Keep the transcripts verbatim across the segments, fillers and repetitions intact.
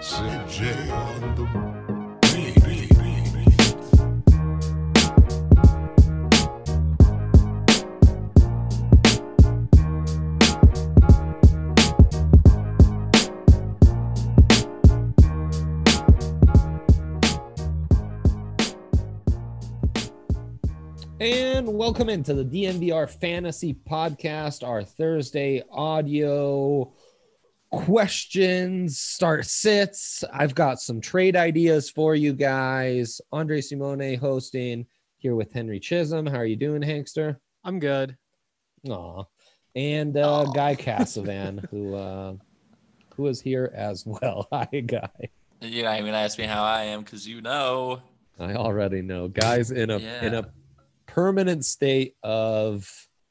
Sid J on the beat. beat, beat, beat. And welcome into the D N V R Fantasy Podcast, our Thursday audio questions, start sits. I've got some trade ideas for you guys. Andre Simone hosting here with Henry Chisholm. How are you doing, Hankster? I'm good. Aw. And uh, Guy Cassavan, who uh, who is here as well. Hi, Guy. You're not even gonna ask me how I am because you know. I already know. Guy's in a Yeah. in a permanent state of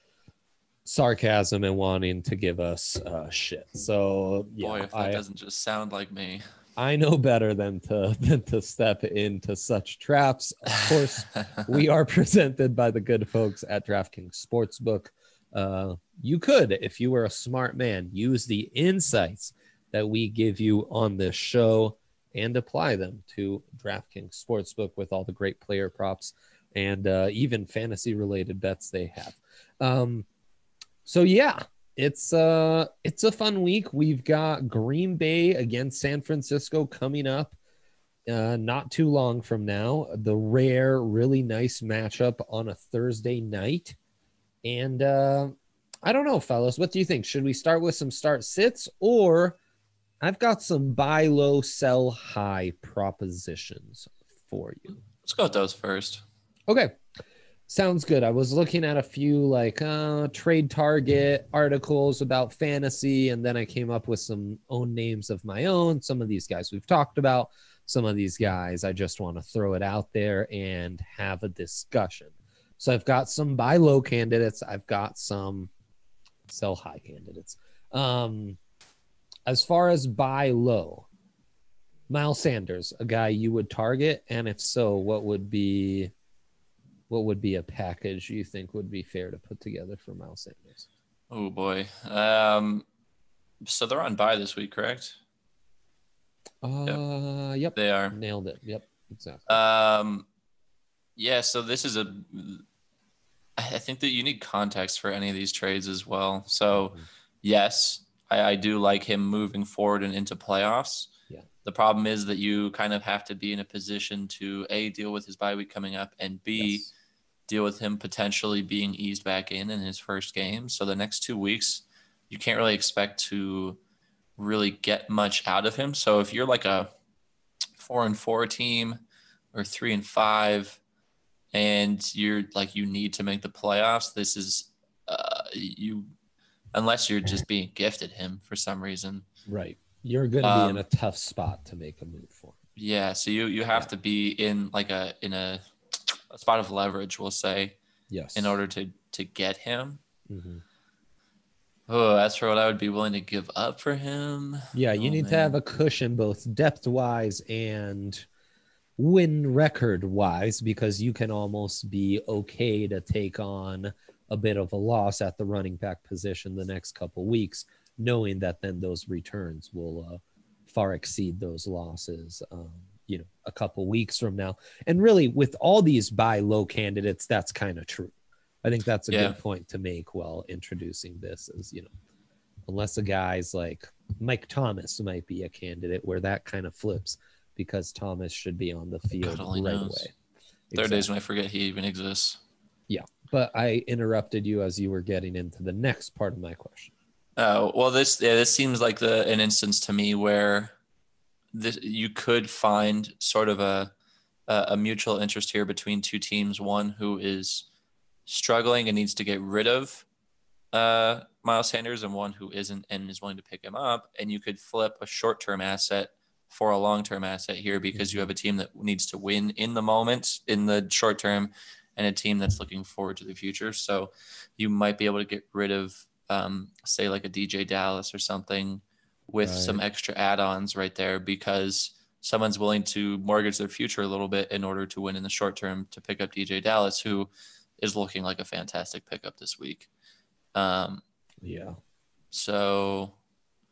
sarcasm and wanting to give us uh, shit. So yeah, Boy, if that I, doesn't just sound like me. I know better than to than to step into such traps. Of course, we are presented by the good folks at DraftKings Sportsbook. Uh, you could, if you were a smart man, use the insights that we give you on this show and apply them to DraftKings Sportsbook with all the great player props and uh, even fantasy related bets they have. Um, so yeah, it's uh, it's a fun week. We've got Green Bay against San Francisco coming up uh, not too long from now. The rare, really nice matchup on a Thursday night. And uh, I don't know, fellas, what do you think? Should we start with some start sits, or I've got some buy low, sell high propositions for you? Let's go with those first. Okay. Sounds good. I was looking at a few like uh, trade target articles about fantasy, and then I came up with some own names of my own. Some of these guys we've talked about. Some of these guys I just want to throw it out there and have a discussion. So I've got some buy low candidates. I've got some sell high candidates. Um, as far as buy low, Miles Sanders, a guy you would target, and if so, what would be what would be a package you think would be fair to put together for Miles Sanders? Oh boy. Um, so they're on bye this week, correct? Uh, yep. They are. Nailed it. Yep, exactly. Um, yeah. So this is a. I think that you need context for any of these trades as well. So, Mhm. yes, I, I do like him moving forward and into playoffs. Yeah. The problem is that you kind of have to be in a position to A, deal with his bye week coming up, and B, Yes. deal with him potentially being eased back in in his first game. So the next two weeks, you can't really expect to really get much out of him. So if you're like a four and four team or three and five, and you're like, you need to make the playoffs, this is uh, you, unless you're just being gifted him for some reason. Right. You're going to Um, be in a tough spot to make a move for him. Yeah. So you, you have Yeah. to be in like a, in a, a spot of leverage, we'll say, Yes. in order to, to get him. Mhm. Oh, as for what I would be willing to give up for him. Yeah, you oh, need to man. have a cushion both depth-wise and win record-wise, because you can almost be okay to take on a bit of a loss at the running back position the next couple weeks, knowing that then those returns will uh, far exceed those losses, um, you know, a couple weeks from now. And really, with all these buy low candidates, that's kind of true. I think that's a Yeah. good point to make while introducing this is, you know, unless a guy's like Mike Thomas might be a candidate where that kind of flips, because Thomas should be on the field God only right knows. away. There are Exactly. days when I forget he even exists. Yeah, but I interrupted you as you were getting into the next part of my question. Oh, well, this yeah, this seems like the an instance to me where this, you could find sort of a, a a mutual interest here between two teams. One who is struggling and needs to get rid of uh, Miles Sanders, and one who isn't and is willing to pick him up. And you could flip a short-term asset for a long-term asset here, because you have a team that needs to win in the moment, in the short term, and a team that's looking forward to the future. So you might be able to get rid of, um, say, like a D J Dallas or something with Right. some extra add-ons right there, because someone's willing to mortgage their future a little bit in order to win in the short term to pick up D J Dallas, who is looking like a fantastic pickup this week. Um, Yeah. so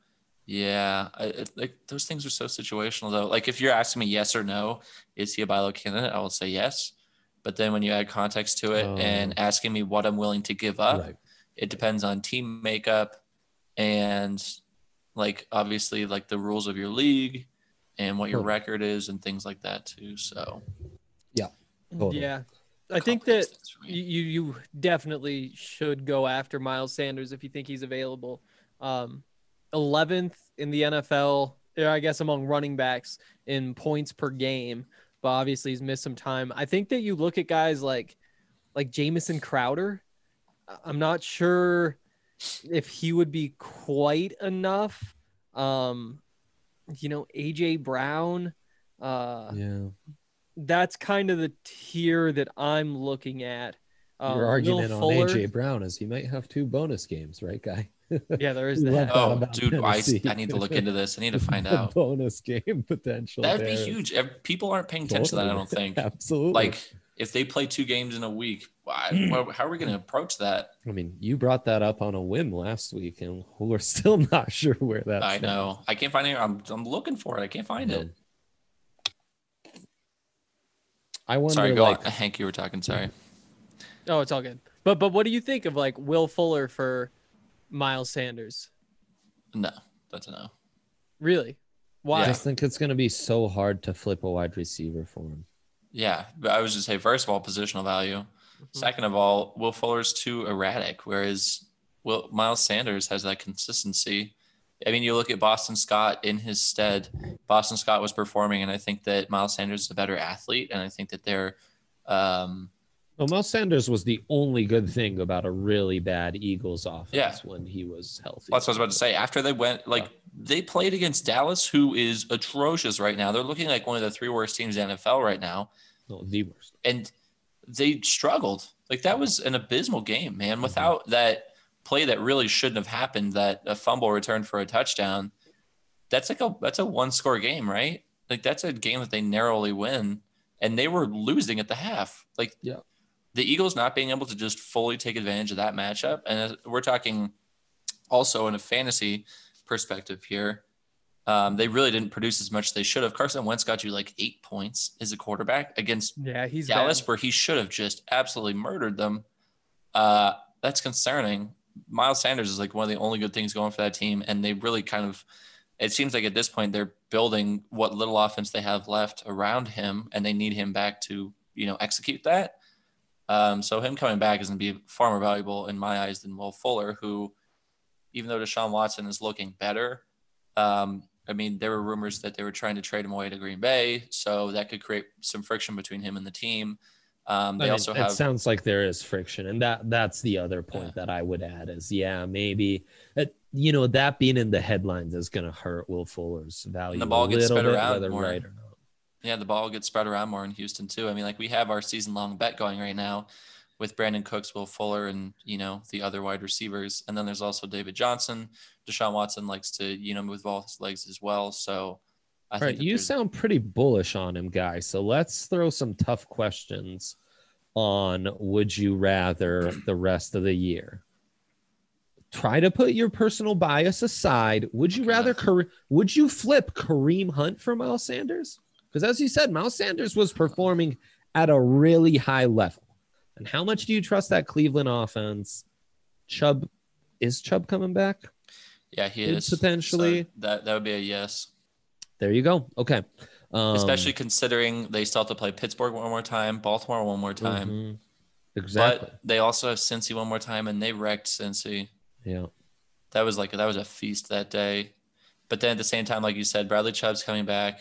Yeah, I, it, like those things are so situational though. Like if you're asking me yes or no, is he a buy low candidate? I will say yes. But then when you add context to it Oh. and asking me what I'm willing to give up, Right. it depends on team makeup and like obviously like the rules of your league and what your Totally. record is and things like that too. So Totally. Yeah. I think that complicates things for me. you you definitely should go after Miles Sanders if you think he's available. Um, eleventh in the N F L, or I guess among running backs in points per game, but obviously he's missed some time. I think that you look at guys like like Jamison Crowder. I- I'm not sure if he would be quite enough. Um, you know, A J Brown. Uh, Yeah. that's kind of the tier that I'm looking at. Um, Your Will argument on Fuller- A J Brown is he might have two bonus games, right, guy? Yeah, there is We that. left out Oh, about dude, I, Tennessee. I need to look into this. I need to find The out. bonus game potential. That'd be there is huge. Ev- People aren't paying attention to that, I don't think. Absolutely. Like if they play two games in a week, why, well, how are we going to approach that? I mean, you brought that up on a whim last week, and we're still not sure where that's. I know. I can't find it. I'm, I'm looking for it. I can't find it. I wonder, Sorry, go like, on. Hank, you were talking. Sorry. Oh, it's all good. But but what do you think of like Will Fuller for Miles Sanders? No, that's a no. Really? I Why? just think it's going to be so hard to flip a wide receiver for him. Yeah, but I was just say first of all, positional value. Second of all, Will Fuller's too erratic, whereas Will Miles Sanders has that consistency. I mean, you look at Boston Scott in his stead. Boston Scott was performing, and I think that Miles Sanders is a better athlete, and I think that they're. Um, Well, Miles Sanders was the only good thing about a really bad Eagles offense Yeah. when he was healthy. That's what I was about to say. After they went, like, they played against Dallas, who is atrocious right now. They're looking like one of the three worst teams in the N F L right now. No, the worst. And they struggled. Like, that was an abysmal game, man. Without that play that really shouldn't have happened, that a fumble return for a touchdown, that's like a that's a one score game, right? Like, that's a game that they narrowly win. And they were losing at the half. Like, Yeah. the Eagles not being able to just fully take advantage of that matchup. And we're talking also in a fantasy perspective here. Um, they really didn't produce as much as they should have. Carson Wentz got you like eight points as a quarterback against Yeah, he's Dallas, bad. where he should have just absolutely murdered them. Uh, that's concerning. Miles Sanders is like one of the only good things going for that team. And they really kind of, it seems like at this point, they're building what little offense they have left around him, and they need him back to, you know, execute that. Um, so him coming back is going to be far more valuable in my eyes than Will Fuller, who, even though Deshaun Watson is looking better, um, I mean, there were rumors that they were trying to trade him away to Green Bay, so that could create some friction between him and the team. Um, they I mean, also it have sounds like there is friction, and that that's the other point Yeah. that I would add is, yeah, maybe that, you know, that being in the headlines is going to hurt Will Fuller's value. the ball a gets little spread bit, around whether more. right or not. yeah, the ball gets spread around more in Houston too. I mean, like we have our season long bet going right now with Brandon Cooks, Will Fuller, and you know the other wide receivers, and then there's also David Johnson. Deshaun Watson likes to you know move all his legs as well, so. I All think right, that you there's- sound pretty bullish on him, guys. So let's throw some tough questions on would you rather the rest of the year. Try to put your personal bias aside. Would you Okay. rather Kare- would you flip Kareem Hunt for Miles Sanders? Because as you said, Miles Sanders was performing at a really high level. And how much do you trust that Cleveland offense? Chubb, is Chubb coming back? Yeah, he Could is potentially. So that that would be a yes, There you go. Okay. Um, especially considering they still have to play Pittsburgh one more time, Baltimore one more time, mhm. Exactly. but they also have Cincy one more time, and they wrecked Cincy. Yeah. That was like that was a feast that day. But then at the same time, like you said, Bradley Chubb's coming back.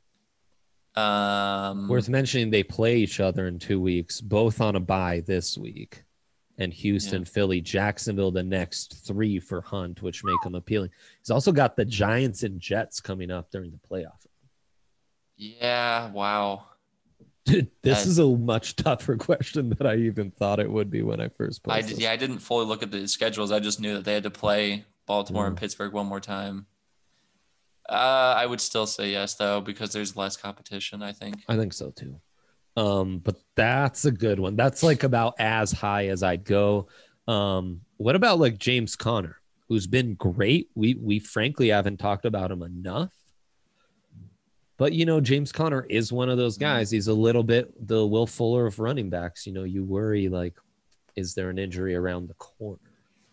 Um, Worth mentioning, they play each other in two weeks, both on a bye this week. And Houston, Yeah. Philly, Jacksonville, the next three for Hunt, which make him appealing. He's also got the Giants and Jets coming up during the playoff. yeah, wow. Dude, this That- is a much tougher question than I even thought it would be when I first I posted. did, yeah, I didn't fully look at the schedules. I just knew that they had to play Baltimore and Mm. Pittsburgh one more time. Uh, I would still say yes, though, because there's less competition, I think. I think so too. Um, but that's a good one. That's like about as high as I'd go. Um, what about like James Conner? who's been great. We we frankly haven't talked about him enough. But, you know, James Conner is one of those guys. He's a little bit the Will Fuller of running backs. You know, you worry, like, is there an injury around the corner?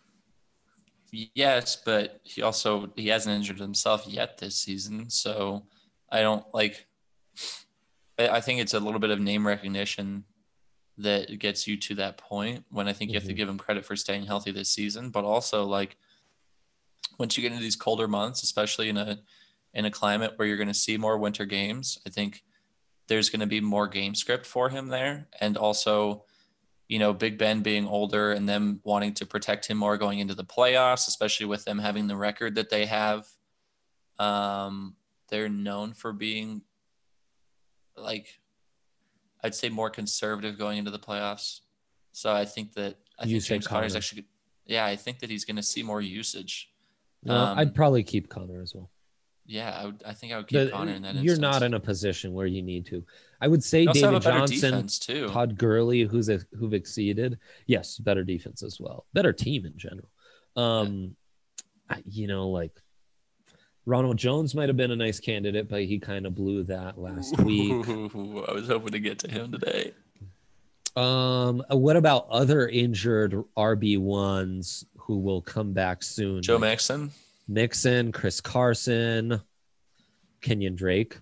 Yes, but he also he hasn't injured himself yet this season. So I don't like I I think it's a little bit of name recognition that gets you to that point when I think you have to Mhm. give him credit for staying healthy this season. But also, like, once you get into these colder months, especially in a in a climate where you're going to see more winter games, I think there's going to be more game script for him there. And also, you know, Big Ben being older and them wanting to protect him more going into the playoffs, especially with them having the record that they have. Um, they're known for being, like, I'd say more conservative going into the playoffs. So I think that I You think say James Conner's Conner. actually, yeah, I think that he's going to see more usage. Well, Um, I'd probably keep Connor as well. Yeah, I would. I think I would keep The- Connor in that you're instance. not in a position where you need to. I would say They also have David a better Johnson, defense too. Todd Gurley, who's a, who've exceeded. Yes, better defense as well. Better team in general. Um, I- you know, like Ronald Jones might have been a nice candidate, but he kind of blew that last week. Ooh, I was hoping to get to him today. Um, what about other injured R B ones who will come back soon? Joe Like Mixon. Mixon, Chris Carson, Kenyon Drake.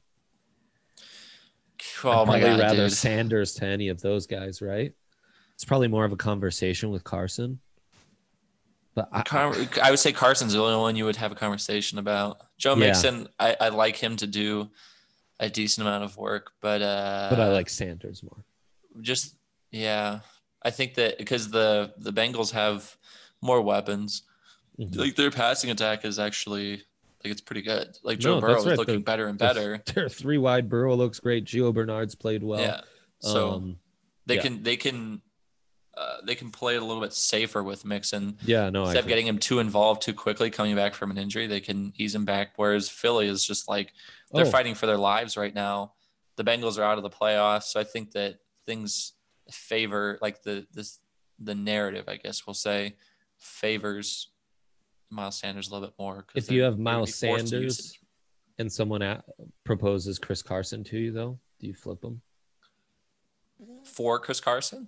Oh I'd my probably god, rather dude. Sanders to any of those guys, right? It's probably more of a conversation with Carson. But I, Car- I would say Carson's the only one you would have a conversation about. Joe Yeah. Mixon, I, I like him to do a decent amount of work, but uh, but I like Sanders more. just yeah. I think that because the the Bengals have more weapons, Mhm. like their passing attack is actually like it's pretty good. Like No, Joe Burrow that's is right. looking The- better and the- better. Their three wide Burrow looks great. Gio Bernard's played well. yeah. So um, they yeah. can they can uh, they can play it a little bit safer with Mixon. yeah, no, I Instead of agree. getting him too involved too quickly coming back from an injury, they can ease him back. Whereas Philly is just like they're Oh. fighting for their lives right now. The Bengals are out of the playoffs, so I think that things favor like the this the narrative, I guess we'll say, favors Miles Sanders a little bit more. 'cause If they're- you have they would Miles be forced to use Sanders it. and someone at, proposes Chris Carson to you, though, do you flip him? For Chris Carson,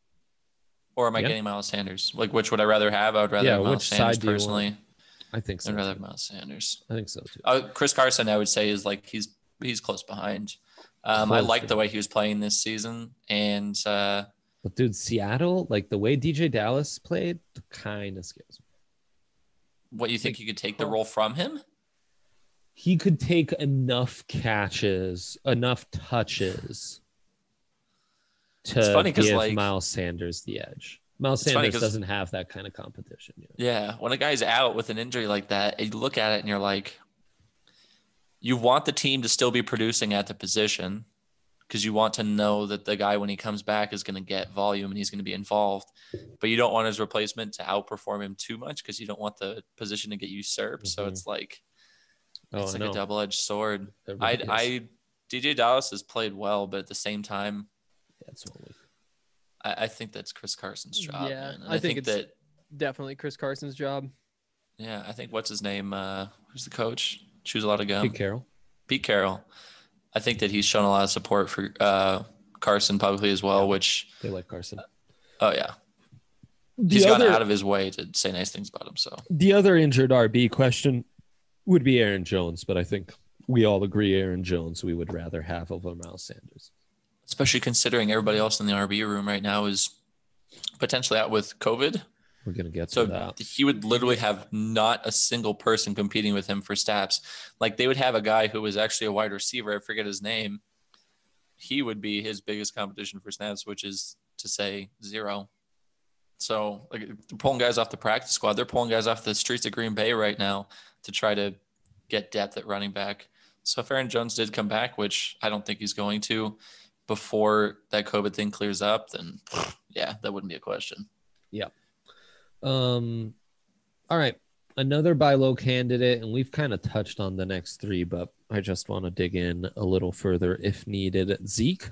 or am I Yeah. getting Miles Sanders? Like, which would I rather have? I would rather Yeah, have Miles which Sanders side do you want? personally. I think so. I'd rather too. have Miles Sanders. I think so too. Uh, Chris Carson, I would say, is like he's he's close behind. Um, I Close like the behind. way he was playing this season, and uh, But dude, Seattle, like the way D J Dallas played, kind of scares me. what you think you could take the huh. role from him? He could take enough catches, enough touches to It's funny 'cause, give like- Miles Sanders the edge. Miles It's funny Sanders 'cause- doesn't have that kind of competition yet. Yeah, when a guy's out with an injury like that, you look at it and you're like, you want the team to still be producing at the position because you want to know that the guy when he comes back is going to get volume and he's going to be involved, but you don't want his replacement to outperform him too much because you don't want the position to get usurped. So Mhm. it's like Oh, it's I like know. a double-edged sword. It I really is. I D J Dallas has played well, but at the same time, That's one week. I, I think that's Chris Carson's job. Yeah, man. And I think it's- that Definitely Chris Carson's job. yeah, I think what's his name? Uh, who's the coach? Chews a lot of gum. Pete Carroll. Pete Carroll. I think that he's shown a lot of support for uh, Carson publicly as well. Yeah. Which They like Carson. oh yeah, The he's other, gone out of his way to say nice things about him. So the other injured R B question would be Aaron Jones, but I think we all agree Aaron Jones we would rather have over Miles Sanders. especially considering everybody else in the R B room right now is potentially out with COVID. We're gonna get to So that. he would literally have not a single person competing with him for snaps. Like they would have a guy who was actually a wide receiver. I forget his name. He would be his biggest competition for snaps, which is to say zero. So like they're pulling guys off the practice squad. They're pulling guys off the streets of Green Bay right now to try to get depth at running back. So if Aaron Jones did come back, which I don't think he's going to, before that COVID thing clears up, then yeah, that wouldn't be a question. Um, all right, another buy low candidate, and we've kind of touched on the next three, but I just want to dig in a little further if needed. Zeke,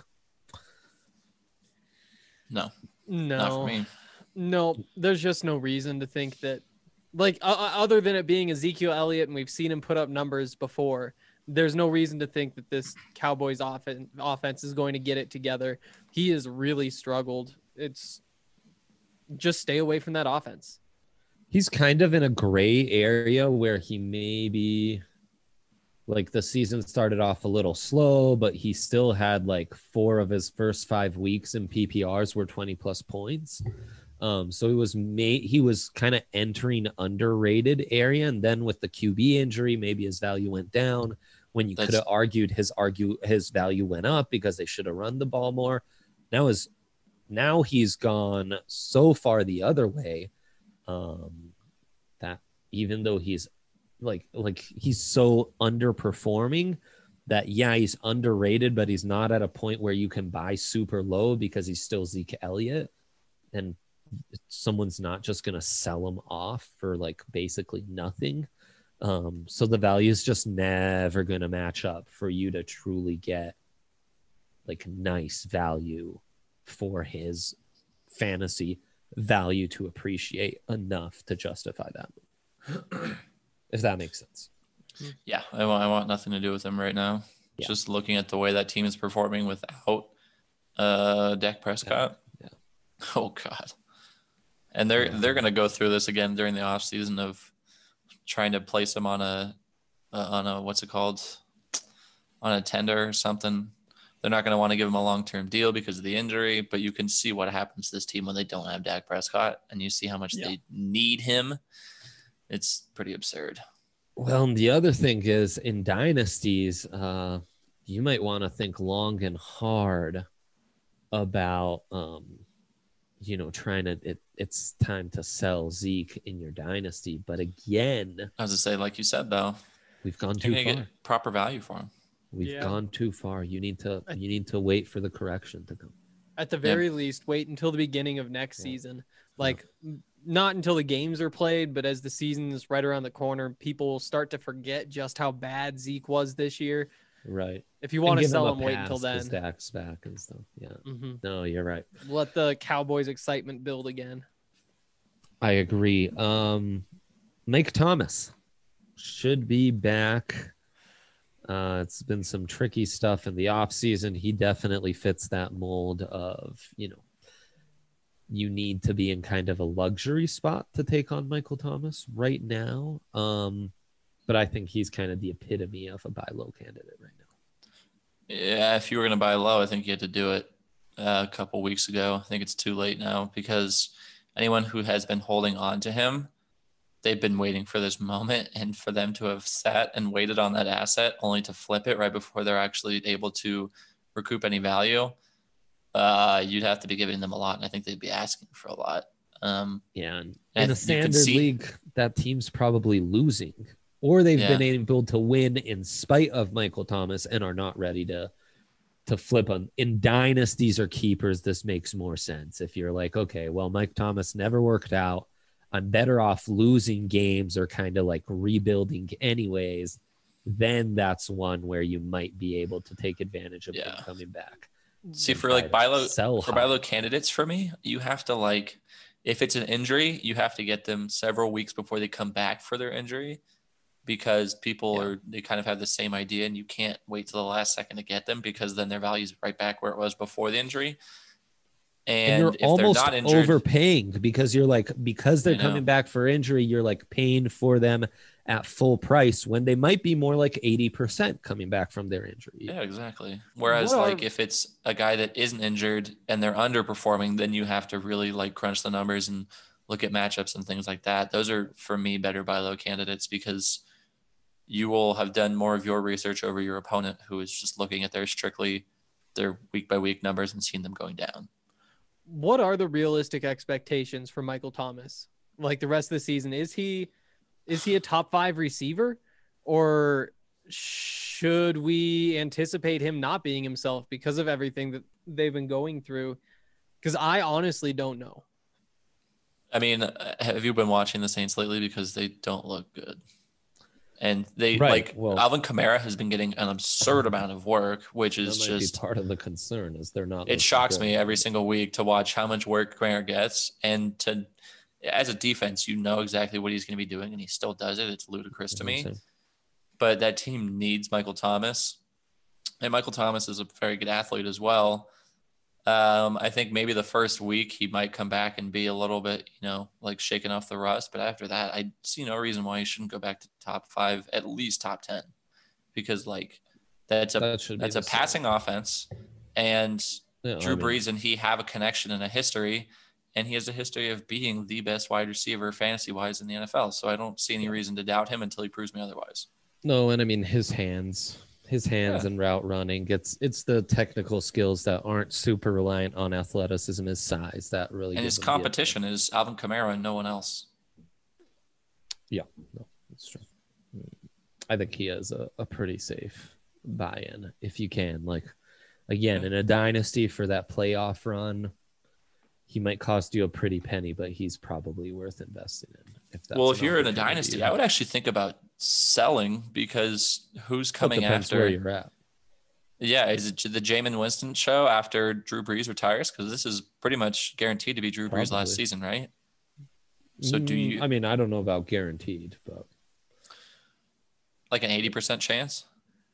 No, not for No, me. no, there's just no reason to think that Like uh, other than it being Ezekiel Elliott, and we've seen him put up numbers before, there's no reason to think that this Cowboys offense offense is going to get it together. He has really struggled. It's just stay away from that offense. He's kind of in a gray area where he maybe like the season started off a little slow, but he still had like four of his first five weeks in P P Rs were twenty plus points. Um, so he was made, he was kind of entering underrated area. And then with the Q B injury, maybe his value went down when you could have argued his argue his value went up because they should have run the ball more. Now is now he's gone so far the other way. Um, that even though he's like, like he's so underperforming that, yeah, he's underrated, but he's not at a point where you can buy super low because he's still Zeke Elliott and someone's not just going to sell him off for like basically nothing. Um, so the value is just never going to match up for you to truly get like nice value for his fantasy value to appreciate enough to justify that move. If that makes sense. Yeah, I want, I want nothing to do with him right now. Yeah. Just looking at the way that team is performing without uh, Dak Prescott. Yeah. Yeah. Oh, God. And they're Yeah. they're going to go through this again during the offseason of trying to place him on a, uh, on a what's it called, on a tender or something. They're not going to want to give him a long-term deal because of the injury, but you can see what happens to this team when they don't have Dak Prescott, and you see how much Yeah. they need him. It's pretty absurd. Well, and the other thing is in dynasties, uh, you might want to think long and hard about, um, you know, trying to, it, it's time to sell Zeke in your dynasty. But again, I was to say, like you said, though, we've gone you're too going to far. get proper value for him. We've Yeah. gone too far. You need to, you need to wait for the correction to come. At the very least, wait until the beginning of next Yeah. season. Like, not until the games are played, but as the season is right around the corner, people will start to forget just how bad Zeke was this year. Right. If you want to And give sell a him, wait until pass 'cause then. Dak's back and stuff. Yeah. hmm No, you're right. Let the Cowboys' excitement build again. I agree. Um, Mike Thomas should be back. Uh, it's been some tricky stuff in the offseason. He definitely fits that mold of, you know, you need to be in kind of a luxury spot to take on Michael Thomas right now. Um, but I think he's kind of the epitome of a buy low candidate right now. Yeah, if you were going to buy low, I think you had to do it uh, a couple weeks ago. I think it's too late now because anyone who has been holding on to him, they've been waiting for this moment, and for them to have sat and waited on that asset only to flip it right before they're actually able to recoup any value, uh, you'd have to be giving them a lot, and I think they'd be asking for a lot. Um, Yeah. And and in a you can standard see- league, that team's probably losing, or they've Yeah. been able to win in spite of Michael Thomas and are not ready to to flip on. In dynasties or keepers, this makes more sense. If you're like, okay, well, Mike Thomas never worked out, I'm better off losing games or kind of like rebuilding anyways, then that's one where you might be able to take advantage of Yeah. him coming back. See, and for try like to buy low, sell for high. buy low candidates for me, you have to like, if it's an injury, you have to get them several weeks before they come back for their injury, because people Yeah. are, they kind of have the same idea, and you can't wait till the last second to get them because then their value is right back where it was before the injury. And, And, you're if almost they're not injured, overpaying because you're like, because they're I know. coming back for injury, you're like paying for them at full price when they might be more like eighty percent coming back from their injury. yeah, exactly. Whereas What are- like if it's a guy that isn't injured and they're underperforming, then you have to really like crunch the numbers and look at matchups and things like that. Those are for me better buy low candidates because you will have done more of your research over your opponent who is just looking at their strictly their week by week numbers and seeing them going down. What are the realistic expectations for Michael Thomas? Like the rest of the season, is he is he a top five receiver, or should we anticipate him not being himself because of everything that they've been going through? Because I honestly don't know. I mean, uh, have you been watching the Saints lately? Because they don't look good. And they Right, like well- Alvin Kamara has been getting an absurd amount of work, which That is might just be part of the concern is they're not. it looking shocks good. me every single week to watch how much work Kamara gets, and to as a defense, you know exactly what he's going to be doing, and he still does it. It's ludicrous to me. Same. But that team needs Michael Thomas, and Michael Thomas is a very good athlete as well. Um, I think maybe the first week he might come back and be a little bit, you know, like shaking off the rust. But after that, I see no reason why he shouldn't go back to top five, at least top ten, because like that's a That should be that's a the passing offense, and Yeah, Drew I mean, Brees and he have a connection and a history, and he has a history of being the best wide receiver fantasy wise in the N F L. So I don't see any reason to doubt him until he proves me otherwise. No, and I mean his hands, his hands Yeah. and route running. It's it's the technical skills that aren't super reliant on athleticism, his size that really. And give his him the competition is Alvin Kamara and no one else. Yeah, no, that's true. I think he has a, a pretty safe buy-in if you can. Like, again, Yeah. in a dynasty for that playoff run, he might cost you a pretty penny, but he's probably worth investing in. If that's Well, if an you're in a opportunity dynasty, you I have. would actually think about selling, because who's It coming depends after? where you're at. Yeah, is it the Jameis Winston show after Drew Brees retires? Because this is pretty much guaranteed to be Drew Brees' Probably. last season, right? So do Mm, you I mean, I don't know about guaranteed, but like an eighty percent chance?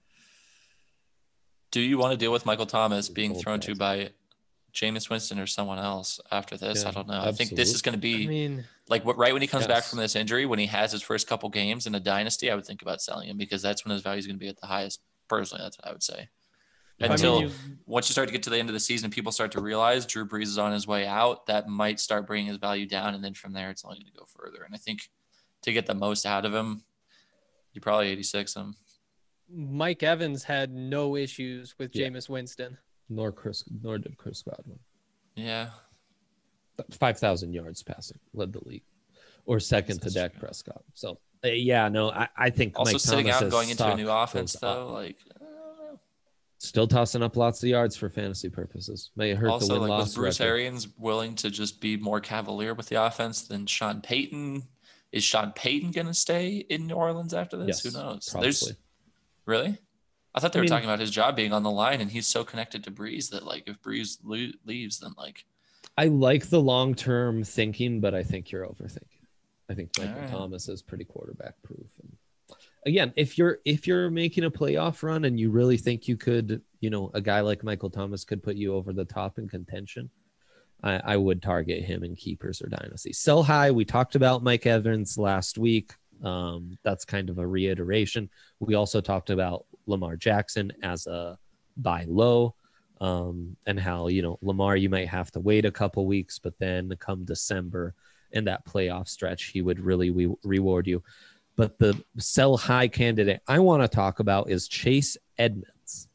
Do you want to deal with Michael Thomas being Cold thrown to pass. by Jameis Winston or someone else after this? Yeah, I don't know. I think this is going to I be mean, like what right when he comes back Yes. from this injury, when he has his first couple games in a dynasty, I would think about selling him, because that's when his value is going to be at the highest. Personally, that's what I would say. I mean, Until you- once you start to get to the end of the season, people start to realize Drew Brees is on his way out. That might start bringing his value down, and then from there, it's only going to go further. And I think to get the most out of him, you probably eighty-six him. Mike Evans had no issues with Yeah. Jameis Winston. nor Chris, nor did Chris Godwin. Yeah, five thousand yards passing, led the league, or second to That's Dak true. Prescott. So uh, yeah, no, I, I think also Mike sitting out and Thomas's going into a stock new goes offense, up. though, like I don't know. Still tossing up lots of yards for fantasy purposes. May hurt the Also, win like loss was Bruce record. Arians willing to just be more cavalier with the offense than Sean Payton? Is Sean Payton going to stay in New Orleans after this? Yes, Who knows? probably. There's really. I thought they I were mean- talking about his job being on the line, and he's so connected to Breeze that like if Breeze le- leaves, then like I like the long term thinking, but I think you're overthinking. I think Michael All right. Thomas is pretty quarterback proof. And again, if you're if you're making a playoff run and you really think you could, you know, a guy like Michael Thomas could put you over the top in contention, I, I would target him in keepers or dynasty. Sell high. We talked about Mike Evans last week. Um, that's kind of a reiteration. We also talked about Lamar Jackson as a buy low. Um, and how, you know, Lamar, you might have to wait a couple weeks, but then come December and that playoff stretch, he would really re- reward you. But the sell high candidate I want to talk about is Chase Edmonds,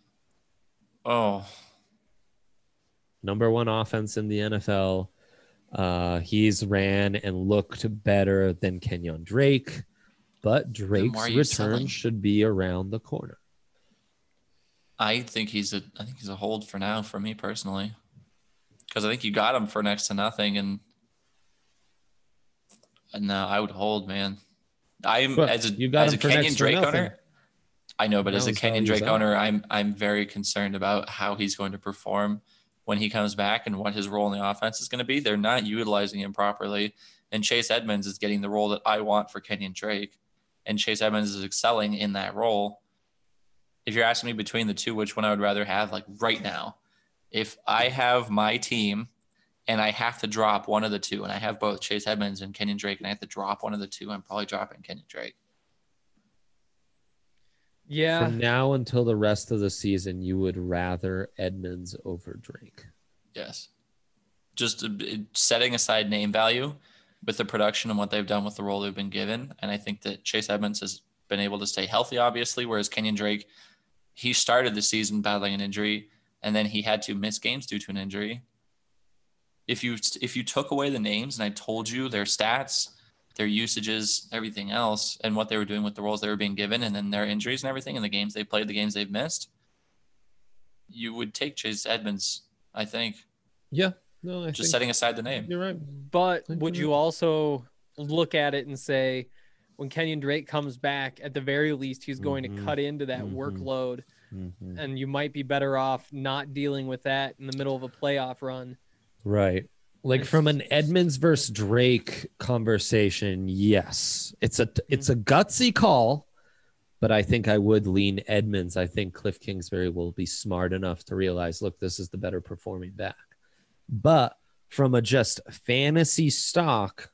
oh number one offense in the N F L. Uh, he's ran and looked better than Kenyon Drake, but why Drake's are you return selling? should be around the corner. I think he's a I think he's a hold for now for me personally, because I think you got him for next to nothing, and and no, I would hold, man. I'm But as a you got as a him for Kenyon next to Drake nothing. owner. I know, but Now as a his Kenyon value's Drake up. owner, I'm I'm very concerned about how he's going to perform when he comes back and what his role in the offense is going to be. They're not utilizing him properly, and Chase Edmonds is getting the role that I want for Kenyon Drake, and Chase Edmonds is excelling in that role. If you're asking me between the two, which one I would rather have, like right now, if I have my team and I have to drop one of the two, and I have both Chase Edmonds and Kenyon Drake, and I have to drop one of the two, I'm probably dropping Kenyon Drake. Yeah. From now until the rest of the season, you would rather Edmonds over Drake. Yes. Just uh, setting aside name value with the production and what they've done with the role they've been given. And I think that Chase Edmonds has been able to stay healthy, obviously, whereas Kenyon Drake, he started the season battling an injury, and then he had to miss games due to an injury. If you if you took away the names and I told you their stats, their usages, everything else, and what they were doing with the roles they were being given, and then their injuries and everything, and the games they played, the games they've missed, you would take Chase Edmonds, I think, Yeah, no, I just think setting aside the name. you're right. But think would you're you right. also look at it and say, when Kenyon Drake comes back, at the very least, he's going Mhm. to cut into that Mhm. workload, Mhm. and you might be better off not dealing with that in the middle of a playoff run. Right. Like from an Edmonds versus Drake conversation, yes, it's a it's a gutsy call, but I think I would lean Edmonds. I think Cliff Kingsbury will be smart enough to realize, look, this is the better performing back. But from a just fantasy stock,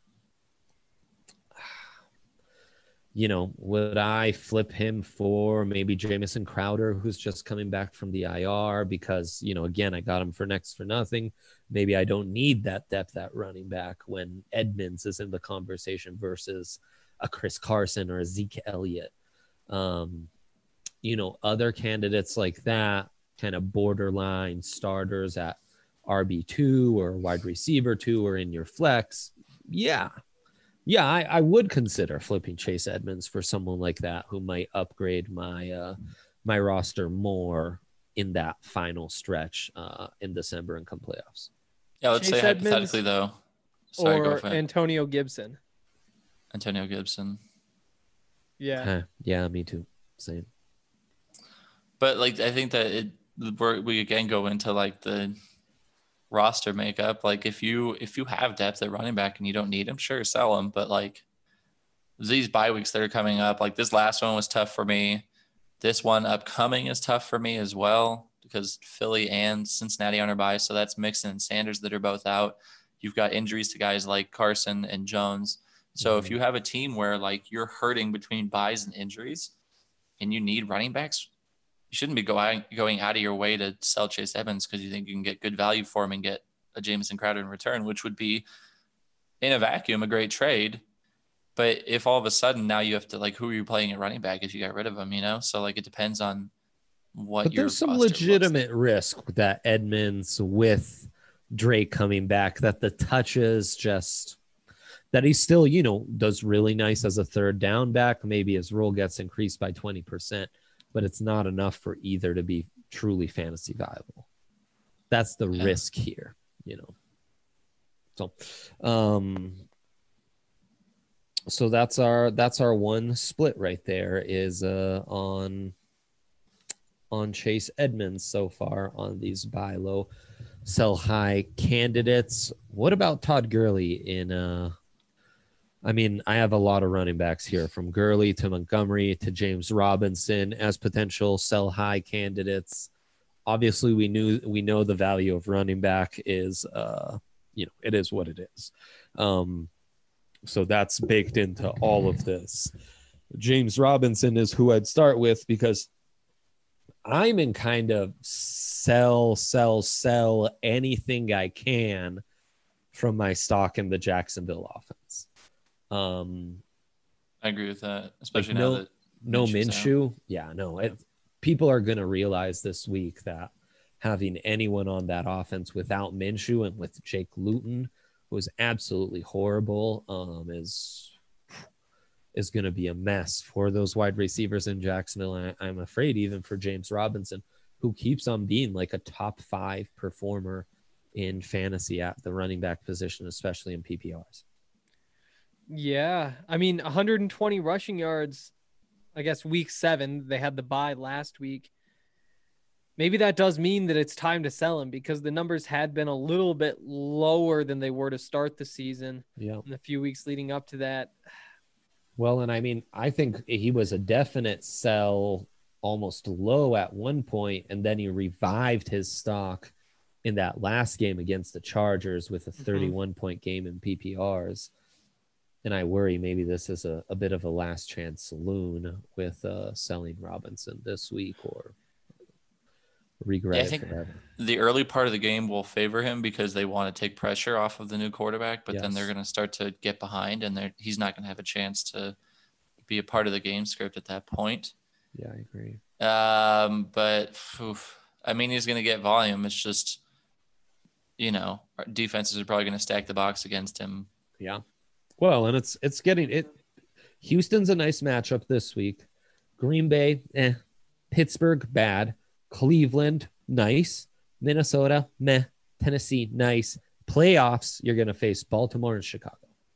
you know, would I flip him for maybe Jamison Crowder, who's just coming back from the I R because, you know, again, I got him for next for nothing. Maybe I don't need that depth at running back when Edmonds is in the conversation versus a Chris Carson or a Zeke Elliott. Um, you know, other candidates like that, kind of borderline starters at R B two or wide receiver two or in your flex. Yeah. Yeah, I, I would consider flipping Chase Edmonds for someone like that who might upgrade my uh, my roster more in that final stretch uh, in December and come playoffs. Yeah, let's Chase say Edmonds hypothetically though. Sorry, go or for it. Antonio Gibson. Antonio Gibson. Yeah. Huh, yeah, me too. Same. But like, I think that it we're, we again go into like the roster makeup. Like if you if you have depth at running back and you don't need him, sure, sell him. But like these bye weeks that are coming up, like this last one was tough for me. This one upcoming is tough for me as well because Philly and Cincinnati on our bye. So that's Mixon and Sanders that are both out. You've got injuries to guys like Carson and Jones. So Mm-hmm. if you have a team where like you're hurting between buys and injuries and you need running backs, you shouldn't be going going out of your way to sell Chase Edmonds because you think you can get good value for him and get a Jamison Crowder in return, which would be in a vacuum a great trade. But if all of a sudden now you have to like, who are you playing at running back if you got rid of him, you know? So like it depends on what But your there's some roster looks legitimate like. risk that Edmonds with Drake coming back, that the touches just that he still, you know, does really nice as a third down back. Maybe his role gets increased by twenty percent, but it's not enough for either to be truly fantasy viable. That's the Yeah. risk here, you know. So, um, so that's our that's our one split right there is uh on on Chase Edmonds so far on these buy low, sell high candidates. What about Todd Gurley in uh I mean, I have a lot of running backs here from Gurley to Montgomery to James Robinson as potential sell high candidates. Obviously, we knew we know the value of running back is, uh, you know, it is what it is. Um, so that's baked into all of this. James Robinson is who I'd start with because I'm in kind of sell, sell, sell anything I can from my stock in the Jacksonville offense. Um, I agree with that, especially like now no, that no Minshew's out. Minshew. Yeah, no. It, people are going to realize this week that having anyone on that offense without Minshew and with Jake Luton, who was absolutely horrible, um, is is going to be a mess for those wide receivers in Jacksonville. And I, I'm afraid even for James Robinson, who keeps on being like a top five performer in fantasy at the running back position, especially in P P Rs. Yeah. I mean, one hundred twenty rushing yards, I guess week seven, they had the bye last week. Maybe that does mean that it's time to sell him because the numbers had been a little bit lower than they were to start the season Yeah. in the few weeks leading up to that. Well, and I mean, I think he was a definite sell almost low at one point, and then he revived his stock in that last game against the Chargers with a thirty-one point game in P P Rs. And I worry maybe this is a, a bit of a last chance saloon with uh, selling Robinson this week or regret Yeah, I it think forever. the early part of the game will favor him because they want to take pressure off of the new quarterback, but then Yes. they're going to start to get behind and they're, he's not going to have a chance to be a part of the game script at that point. Yeah, I agree. Um, but oof, I mean, he's going to get volume. It's just, you know, our defenses are probably going to stack the box against him. Yeah. Well, and it's it's getting it. Houston's a nice matchup this week. Green Bay, eh. Pittsburgh, bad. Cleveland, nice. Minnesota, meh. Tennessee, nice. Playoffs, you're going to face Baltimore and Chicago.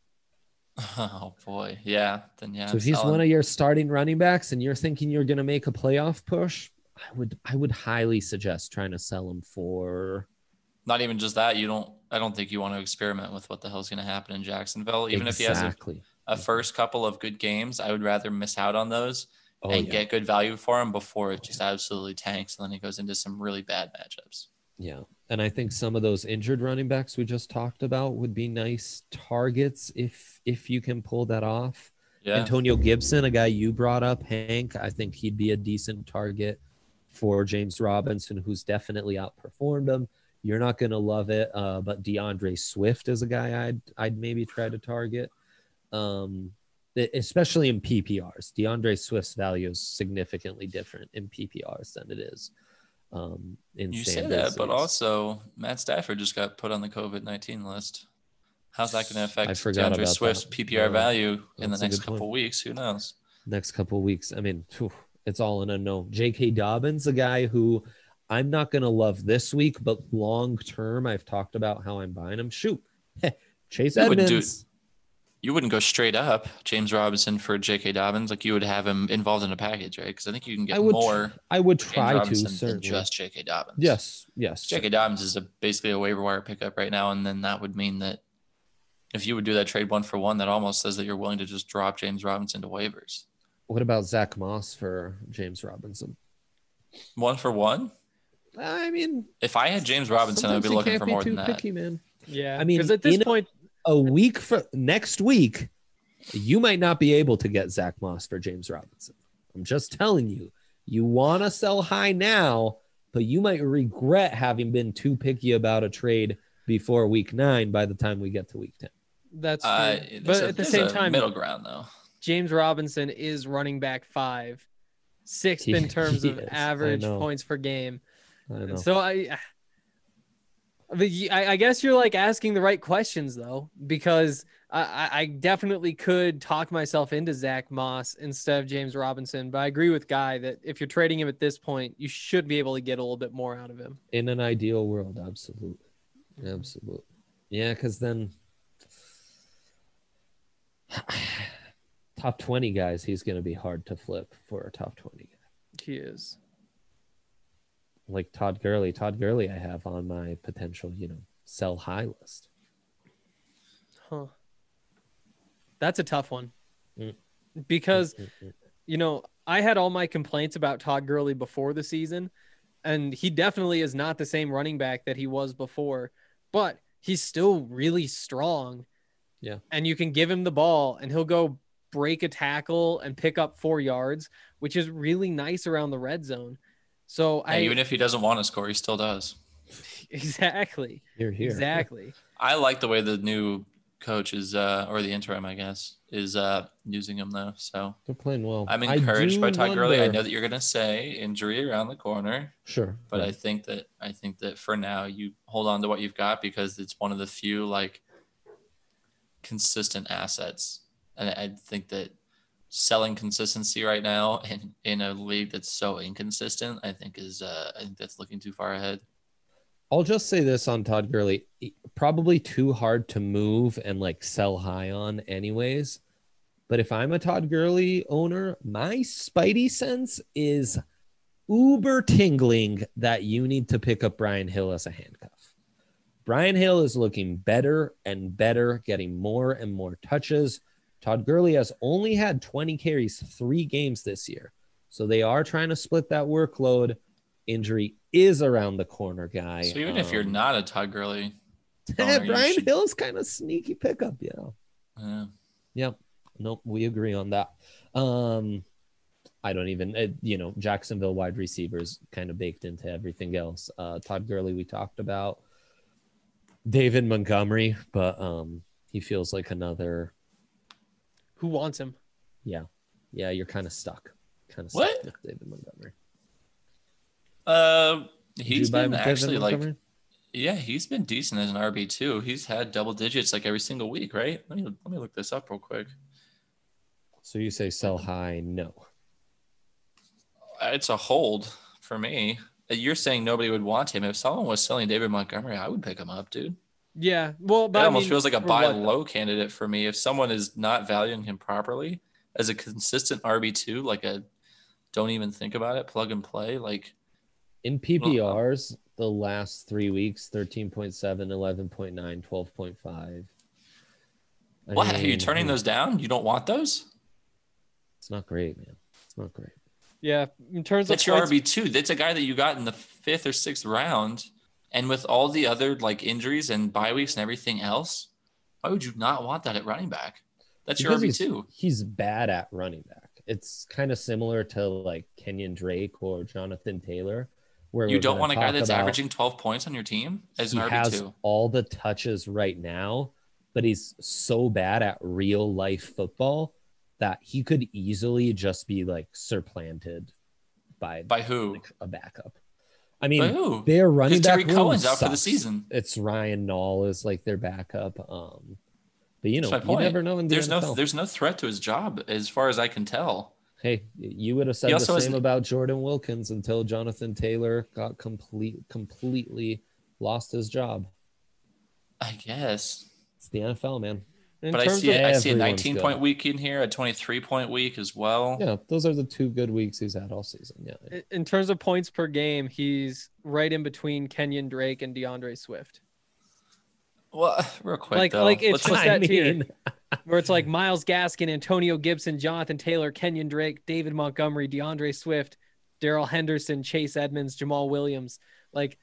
Oh boy. Yeah. Then yeah. So I'm if he's selling. one of your starting running backs and you're thinking you're going to make a playoff push, I would I would highly suggest trying to sell him for not even just that. You don't. I don't think you want to experiment with what the hell's going to happen in Jacksonville. Even if he has a, Exactly. a first couple of good games, I would rather miss out on those Oh, and yeah. get good value for him before it just absolutely tanks and then he goes into some really bad matchups. Yeah. And I think some of those injured running backs we just talked about would be nice targets if if you can pull that off. Yeah. Antonio Gibson, a guy you brought up, Hank, I think he'd be a decent target for James Robinson, who's definitely outperformed him. You're not going to love it, uh, but DeAndre Swift is a guy I'd I'd maybe try to target, um, especially in P P Rs. DeAndre Swift's value is significantly different in P P Rs than it is um, in You say standard that, but leagues. also Matt Stafford just got put on the COVID nineteen list. How's that going to affect I forgot DeAndre about Swift's that. P P R Yeah, value in the that's a next good point. couple weeks? Who knows? Next couple of weeks. I mean, phew, it's all in a no. J K. Dobbins, a guy who I'm not going to love this week, but long term, I've talked about how I'm buying him. Shoot, Chase You wouldn't do Edmonds. You wouldn't go straight up James Robinson for J K. Dobbins. Like you would have him involved in a package, right? Because I think you can get I would, more I would James try to Robinson than certainly. just J K. Dobbins. Yes, yes. J K. Dobbins is a, basically a waiver wire pickup right now, and then that would mean that if you would do that trade one for one, that almost says that you're willing to just drop James Robinson to waivers. What about Zach Moss for James Robinson? One for one? I mean, If I had James Robinson, I'd sometimes be you looking can't for be more too than that. picky, man. Yeah. I mean, because at this in a- point, A week for next week, you might not be able to get Zach Moss for James Robinson. I'm just telling you, you want to sell high now, but you might regret having been too picky about a trade before week nine by the time we get to week ten. that's true. Uh, but there's a- at the there's same a time, middle ground though. James Robinson is running back five, sixth in He- terms he of is. I average know. points per game. I know. So I, but y- I, I guess you're like asking the right questions though, because I, I- I definitely could talk myself into Zach Moss instead of James Robinson. But I agree with Guy that if you're trading him at this point, you should be able to get a little bit more out of him. In an ideal world, absolutely. Absolutely. Yeah, because then top twenty guys, he's going to be hard to flip for a top twenty guy. He is. Like Todd Gurley. Todd Gurley, I have on my potential, you know, sell high list. Huh. That's a tough one. Mm. Because, Mm-mm-mm. you know, I had all my complaints about Todd Gurley before the season, and he definitely is not the same running back that he was before, but he's still really strong. Yeah. And you can give him the ball and he'll go break a tackle and pick up four yards, which is really nice around the red zone. So Yeah, I even if he doesn't want to score, he still does. exactly, You're here. exactly. I like the way the new coach is, uh, or the interim, I guess, is uh, using him though. So They're playing well. I'm I encouraged do by Todd Gurley. I wonder- know that you're gonna say injury around the corner, Sure. but I right. think that I think that for now you hold on to what you've got because it's one of the few like consistent assets, and I think that selling consistency right now in, in a league that's so inconsistent, I think is uh, I think that's looking too far ahead. I'll just say this on Todd Gurley. Probably too hard to move and like sell high on anyways. But if I'm a Todd Gurley owner, my spidey sense is uber tingling that you need to pick up Brian Hill as a handcuff. Brian Hill is looking better and better, getting more and more touches. Todd Gurley has only had twenty carries three games this year. So they are trying to split that workload. Injury is around the corner, guy. So even if you're Um, not a Todd Gurley, owner, you Brian should- Hill is kind of sneaky pickup, yeah. uh, Yep. Nope. We agree on that. Um, I don't even, uh, you know, Jacksonville wide receivers kind of baked into everything else. Uh, Todd Gurley, we talked about. David Montgomery, but um, he feels like another. Who wants him? Yeah, yeah. You're kind of stuck. Kind of What? stuck with David Montgomery. uh, Did he's you buy been David actually like, Montgomery? yeah, he's been decent as an R B too. He's had double digits like every single week, right? Let me let me look this up real quick. So you say sell high? No. It's a hold for me. You're saying nobody would want him. If someone was selling David Montgomery, I would pick him up, dude. Yeah. Well, but That I almost mean, feels like a for buy what, though? low candidate for me. If someone is not valuing him properly as a consistent R B two, like a don't even think about it, plug and play, like In P P Rs, the last three weeks, thirteen point seven, eleven point nine, twelve point five. I What? Are you mean, turning those down? You don't want those? It's not great, man. It's not great. Yeah, in terms That's of your points, R B two. That's a guy that you got in the fifth or sixth round. And with all the other like injuries and bye weeks and everything else, why would you not want that at running back? That's your Because R B he's, two. he's bad at running back. It's kind of similar to like Kenyon Drake or Jonathan Taylor, where You we're don't gonna want a guy talk that's about averaging twelve points on your team as he an has R B two. all the touches right now, but he's so bad at real life football that he could easily just be like supplanted by, By who? like, a backup. I By mean, who? their running Because back Terry room Cohen's out for the sucks. season. It's Ryan Nall is like their backup. Um, but you know, That's my you point. never know in the There's N F L. no there's no threat to his job as far as I can tell. Hey, you would have said He the also has same an- about Jordan Wilkins until Jonathan Taylor got complete completely lost his job. I guess. It's the N F L, man. in But I terms see of I see a everyone's nineteen good. point week in here, a twenty-three point week as well. Yeah, those are the two good weeks he's had all season. Yeah. in terms of points per game, he's right in between Kenyon Drake and DeAndre Swift. Well, real quick Like- though. like it's let's just look- that tier. Where it's like Myles Gaskin, Antonio Gibson, Jonathan Taylor, Kenyon Drake, David Montgomery, DeAndre Swift, Daryl Henderson, Chase Edmonds, Jamal Williams. Like,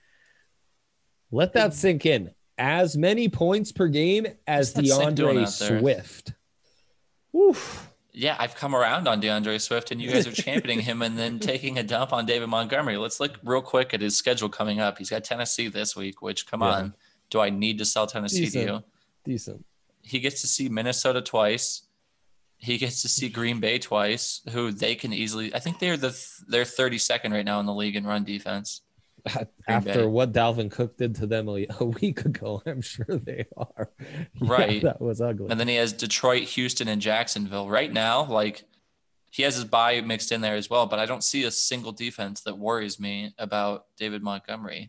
Let that sink in. As many points per game as What's that Sink doing DeAndre out there? Swift. Oof. Yeah, I've come around on DeAndre Swift, and you guys are championing him and then taking a dump on David Montgomery. Let's look real quick at his schedule coming up. He's got Tennessee this week, which, come Yeah. on, do I need to sell Tennessee Decent. to you? Decent. He gets to see Minnesota twice. He gets to see Green Bay twice, who they can easily. I think they're the they're thirty-second right now in the league in run defense. After Bay. what Dalvin Cook did to them a, a week ago, I'm sure they are. Yeah, Right. that was ugly. And then he has Detroit, Houston, and Jacksonville. Right now, like he has his bye mixed in there as well, but I don't see a single defense that worries me about David Montgomery.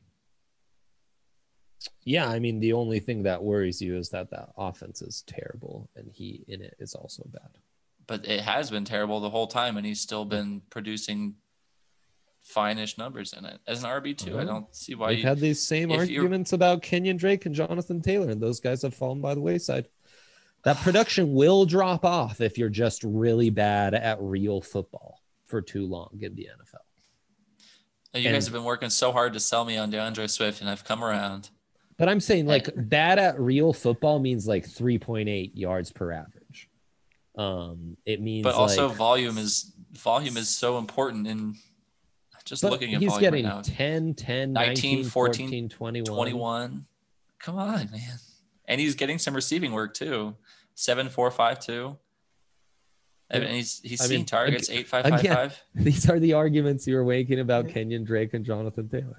Yeah, I mean, the only thing that worries you is that that offense is terrible, and he in it is also bad. But it has been terrible the whole time, and he's still been producing fine-ish numbers in it. As an R B two, I Uh-huh. don't see why We've you had these same if you're- arguments about Kenyon Drake and Jonathan Taylor, and those guys have fallen by the wayside. That production will drop off if you're just really bad at real football for too long in the N F L. you guys and- have been working so hard to sell me on DeAndre Swift, and I've come around. But I'm saying like bad at real football means like three point eight yards per average. Um, it means But also like, volume is volume is so important in just but looking at he's volume getting right now. ten, ten, nineteen, nineteen, fourteen, fourteen, twenty-one. twenty-one. Come on, man. And he's getting some receiving work too. Seven, four, five, two. And he's he's I seeing mean, targets ag- eight, five, five, again, five. These are the arguments you were making about Kenyon Drake and Jonathan Taylor.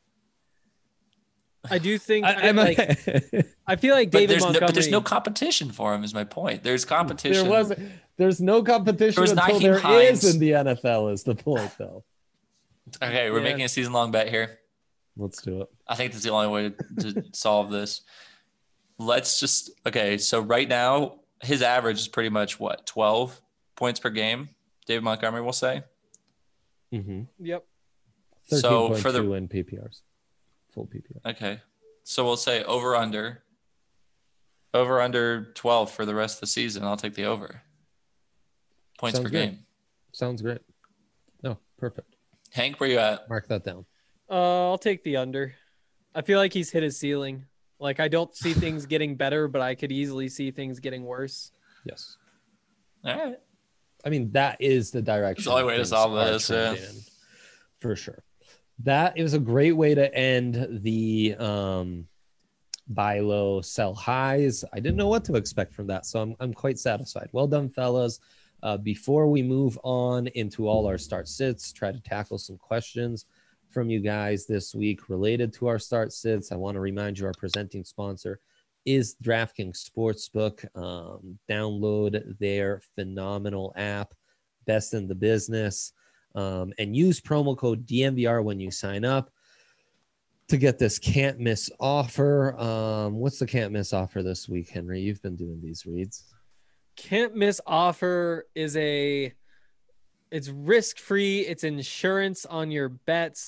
I do think I, I, I'm like I feel like But David there's, no, Montgomery. but there's no competition for him. Is my point. There's competition. there was there's no competition There was until Nyheim there Hines. is in the N F L is the point though. Okay, we're Yeah. making a season long bet here. Let's do it. I think that's the only way to, to solve this. Let's just okay. So right now, his average is pretty much what twelve points per game. David Montgomery will say. Mm-hmm. Yep. So for the- in P P Rs, full P P R. Okay, so we'll say over under. Over under twelve for the rest of the season. I'll take the over. Points Sounds per good. game. Sounds great. No, perfect. Hank, where you at? Mark that down. Uh, I'll take the under. I feel like he's hit his ceiling. Like I don't see things getting better, but I could easily see things getting worse. Yes. All right. I mean, that is the direction. the only way to things solve are this, yeah. trending in, for sure. That is a great way to end the um, buy low, sell highs. I didn't know what to expect from that, so I'm I'm quite satisfied. Well done, fellas. Uh, before we move on into all our start sits, try to tackle some questions from you guys this week related to our start sits. I want to remind you our presenting sponsor is DraftKings Sportsbook. Um, download their phenomenal app, best in the business, um, and use promo code D M V R when you sign up to get this can't miss offer. Um, what's the can't miss offer this week, Henry? You've been doing these reads. Can't miss offer is a it's risk free. It's insurance on your bets.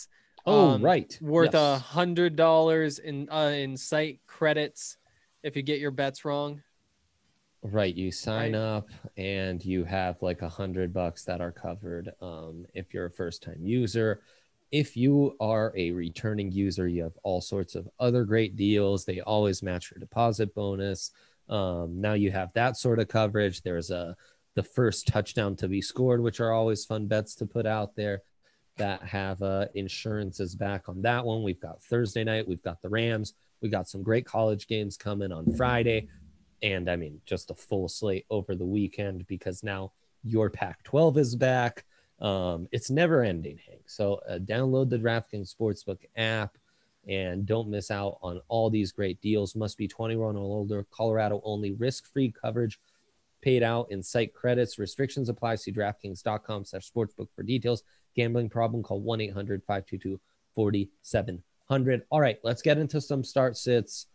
Oh, um, right. worth a Yes. hundred dollars in uh, in site credits if you get your bets wrong. Right. You sign Right. up and you have like a hundred bucks that are covered. Um, if you're a first time user, if you are a returning user, you have all sorts of other great deals. They always match your deposit bonus. Um, now you have that sort of coverage. There's a the first touchdown to be scored, which are always fun bets to put out there that have uh, insurances back on that one. We've got Thursday night. We've got the Rams. We got some great college games coming on Friday. And I mean, just a full slate over the weekend because now your Pac twelve is back. Um, it's never ending, Hank. So uh, download the DraftKings Sportsbook app and don't miss out on all these great deals. Must be twenty-one or older. Colorado only. Risk-free coverage paid out in site credits. Restrictions apply. See DraftKings.com slash sportsbook for details. Gambling problem, call one eight hundred five two two four seven zero zero. All right, let's get into some start sits.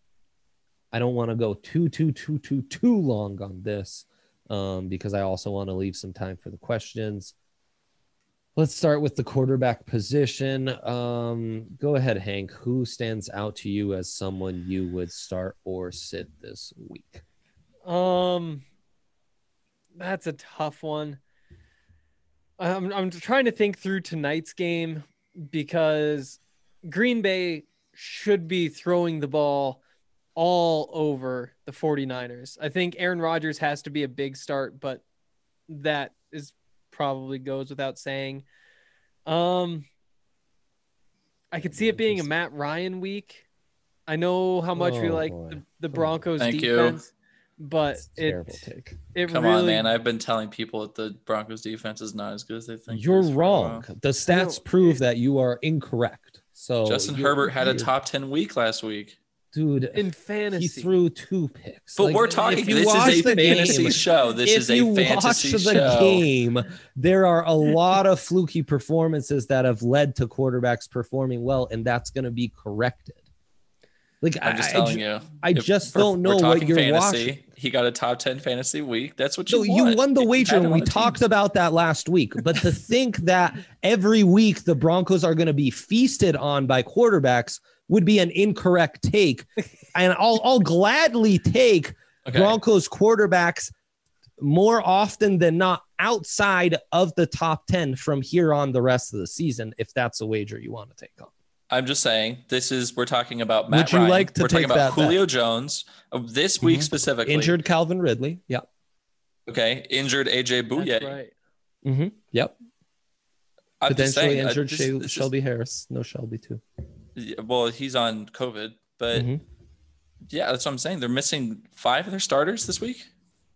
I don't want to go too, too, too, too, too long on this um, because I also want to leave some time for the questions. Let's start with the quarterback position. Um, go ahead, Hank. Who stands out to you as someone you would start or sit this week? Um, that's a tough one. I'm I'm trying to think through tonight's game because Green Bay should be throwing the ball all over the 49ers. I think Aaron Rodgers has to be a big start, but that is probably goes without saying. Um, I could see it being a Matt Ryan week. I know how much we Oh, like boy. the, the Come Broncos Thank you. defense, but That's a terrible it take. it Come really on, man. I've been telling people that the Broncos defense is not as good as they think. it You're is for a wrong. while. The stats No, prove it- that you are incorrect. So Justin you're- Herbert had a you're- top ten week last week. dude. in fantasy. He threw two picks. But Like, we're if talking. you This watch is a the fantasy game- show. This if is a you fantasy watch the show. game, there are a lot of fluky performances that have led to quarterbacks performing well, and that's going to be corrected. Like I'm just I, telling I, you. I If just we're- don't know we're what talking you're fantasy, watching. He got a top ten fantasy week. That's what you No, want. you won the You wager, had him and on we a team. talked about that last week. But to think that every week the Broncos are going to be feasted on by quarterbacks would be an incorrect take. And I'll I'll gladly take Okay. Broncos quarterbacks more often than not outside of the top ten from here on the rest of the season, if that's a wager you want to take on. I'm just saying, this is we're talking about Matt Would you Ryan. like to we're talking take about that bet? Julio Jones uh, this week Mhm. specifically. Injured Calvin Ridley. Yeah. Okay, injured A J Bouye. That's right. Mm-hmm. Yep. I'm just Potentially saying, uh, injured this- Shel- this is- Shelby Harris. No Shelby too. yeah, well, he's on COVID, but Mhm. yeah, that's what I'm saying. They're missing five of their starters this week.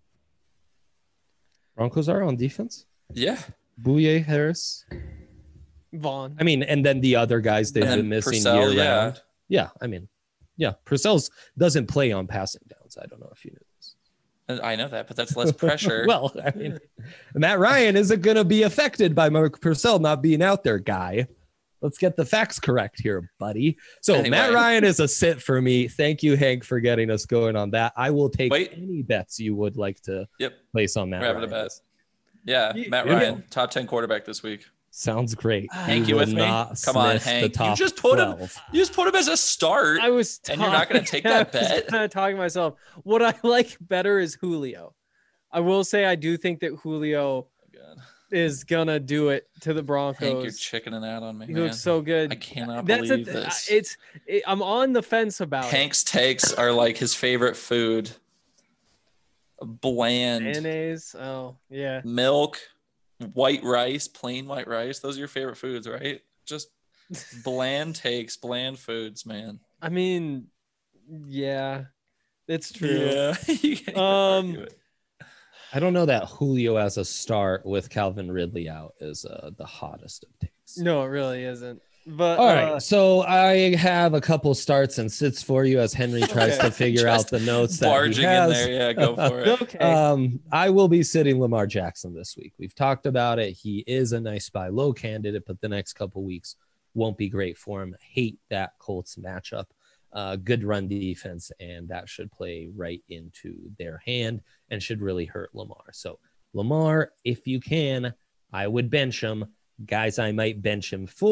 Broncos are on defense. Yeah, Bouye, Harris. Vaughn. I mean, and then the other guys they've And then been missing Purcell, year yeah. round. Yeah, I mean, yeah, Purcell's doesn't play on passing downs. I don't know if you knew this. And I know that, but that's less pressure. Well, I mean, Matt Ryan isn't going to be affected by Mark Purcell not being out there, guy. Let's get the facts correct here, buddy. So Anyway. Matt Ryan is a sit for me. Thank you, Hank, for getting us going on that. I will take Wait. any bets you would like to Yep. place on Matt We're having a Ryan. bet. Yeah, Yeah. Matt Yeah. Ryan, top ten quarterback this week. Sounds great. Hank, He you will with me? not Come on, sniff the Hank. You top just put him- twelve. You just put him as a start. I was And you're not gonna take that I was bet? kinda talking to myself. What I like better is Julio. I will say I do think that Julio God. is gonna do it to the Hank, you're Broncos. chickening out on me, He man. looks so good. I cannot That's believe a, this. It's it, I'm on the fence about Hank's takes are like his favorite food. it. Bland Mayonnaise. Oh yeah. milk, white rice, plain white rice. Those are your favorite foods, right? Just bland takes, bland foods, man. I mean, yeah, it's true. Yeah. You can't even Um, argue it. I don't know that Julio as a start with Calvin Ridley out is uh, the hottest of takes. No, it really isn't. But All right, uh, so I have a couple starts and sits for you as Henry tries Okay. to figure Just out the notes that he barging in has. there. Yeah, go for it. okay. Um, I will be sitting Lamar Jackson this week. We've talked about it. He is a nice buy low candidate, but the next couple weeks won't be great for him. Hate that Colts matchup. Uh, good run defense, and that should play right into their hand and should really hurt Lamar. So Lamar, if you can, I would bench him. Guys I might bench him for,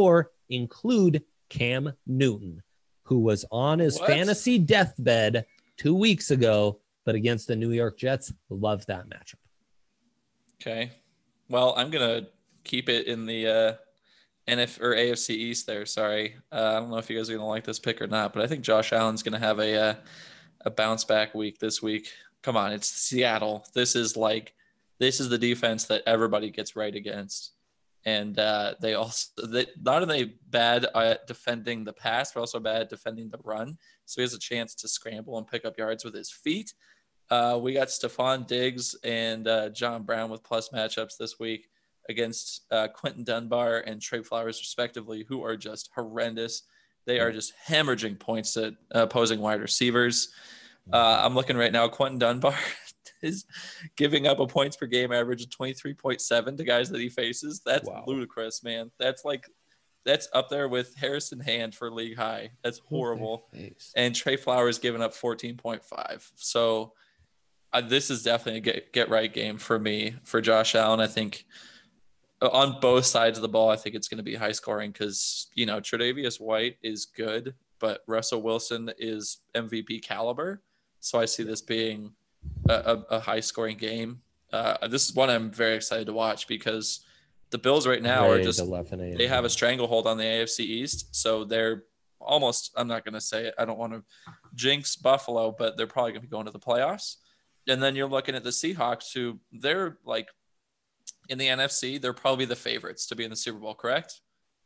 include Cam Newton, who was on his What? fantasy deathbed two weeks ago, but against the New York Jets. Love that matchup. Okay. Well, I'm going to keep it in the uh, N F or A F C East there. Sorry. Uh, I don't know if you guys are going to like this pick or not, but I think Josh Allen's going to have a uh, a bounce back week this week. Come on, it's Seattle. This is like this is the defense that everybody gets right against. And uh, they also they, not only bad at defending the pass, but also bad at defending the run. So he has a chance to scramble and pick up yards with his feet. Uh, we got Stephon Diggs and uh, John Brown with plus matchups this week against uh, Quentin Dunbar and Trey Flowers, respectively, who are just horrendous. They are just hemorrhaging points at opposing wide receivers. Uh, I'm looking right now. Quentin Dunbar is giving up a points per game average of twenty-three point seven to guys that he faces. That's Wow. ludicrous, man. That's like that's up there with Harrison Hand for league high. That's horrible. And Trey Flowers giving up fourteen point five. So uh, this is definitely a get, get right game for me, for Josh Allen. I think on both sides of the ball, I think it's going to be high scoring because, you know, Tre'Davious White is good, but Russell Wilson is M V P caliber. So I see this being a, a, a high scoring game. Uh, this is one I'm very excited to watch because the Bills right now are just, they have a stranglehold on the A F C East. So they're almost, I'm not going to say it, I don't want to jinx Buffalo, but they're probably going to be going to the playoffs. And then you're looking at the Seahawks, who they're like in the N F C, they're probably the favorites to be in the Super Bowl, correct?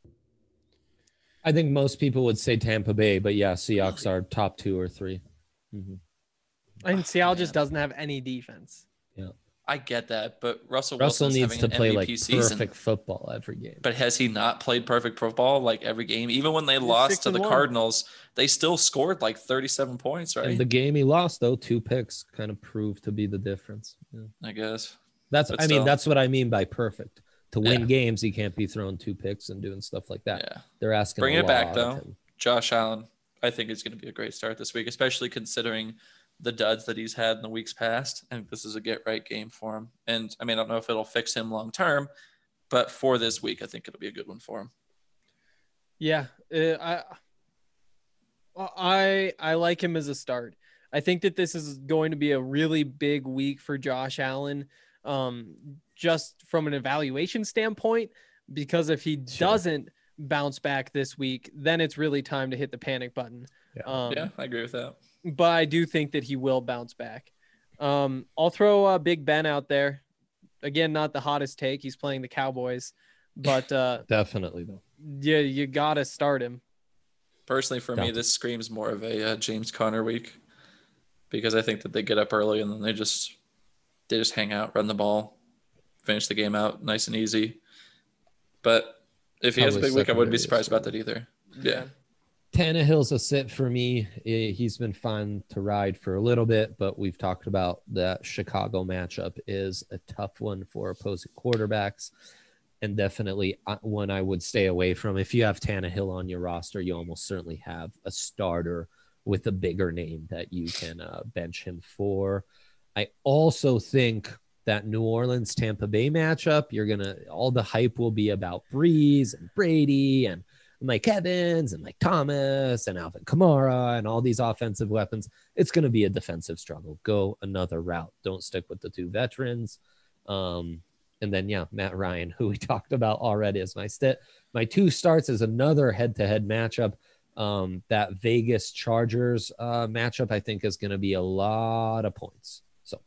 I think most people would say Tampa Bay, but yeah, Seahawks are top two or three. Mm-hmm. And Seattle Man. just doesn't have any defense. Yeah, I get that, but Russell Russell Wilson's needs having to an play M V like P perfect season. football every game. But has he not played perfect football like every game? Even when they He's lost six to and the one. Cardinals, they still scored like thirty-seven points, right? And the game he lost, though, two picks kind of proved to be the difference. Yeah. I guess. That's, But I still. mean, that's what I mean by perfect. To win Yeah. games, he can't be throwing two picks and doing stuff like that. Yeah. They're asking Bring a it back, lot though. of him. Josh Allen, I think is going to be a great start this week, especially considering the duds that he's had in the weeks past. I think this is a get right game for him. And I mean, I don't know if it'll fix him long term, but for this week, I think it'll be a good one for him. Yeah, uh, I, I, I like him as a start. I think that this is going to be a really big week for Josh Allen, um, just from an evaluation standpoint, because if he Sure. doesn't bounce back this week, then it's really time to hit the panic button. Yeah. Um, Yeah, I agree with that. but I do think that he will bounce back. Um, I'll throw uh, Big Ben out there. Again, not the hottest take. He's playing the Cowboys, but uh, Definitely, though. yeah, you got to start him. Personally, for me, Gotcha. this screams more of a uh, James Conner week because I think that they get up early and then they just they just hang out, run the ball, finish the game out nice and easy. But if he has a Probably big week, I wouldn't be secondary surprised about as that either. Yeah. Tannehill's a sit for me. Eh, He's been fun to ride for a little bit, but we've talked about that Chicago matchup is a tough one for opposing quarterbacks, and definitely uh, one I would stay away from. If you have Tannehill on your roster, you almost certainly have a starter with a bigger name that you can uh, bench him for. I also think that New Orleans Tampa Bay matchup, you're gonna all the hype will be about Breeze and Brady and Mike Evans and Mike Thomas and Alvin Kamara and all these offensive weapons. It's going to be a defensive struggle. Go another route. Don't stick with the two veterans. Um, and then, yeah, Matt Ryan, who we talked about already as my stit. My two starts is another head-to-head matchup. Um, that Vegas Chargers uh, matchup, I think, is going to be a lot of points. So,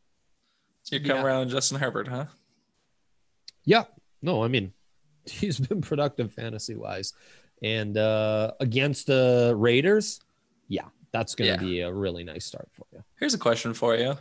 So you come Yeah. around Justin Herbert, huh? yeah, no, I mean, he's been productive fantasy wise, and uh, against the Raiders, yeah, that's going to Yeah. be a really nice start for you. Here's a question for you.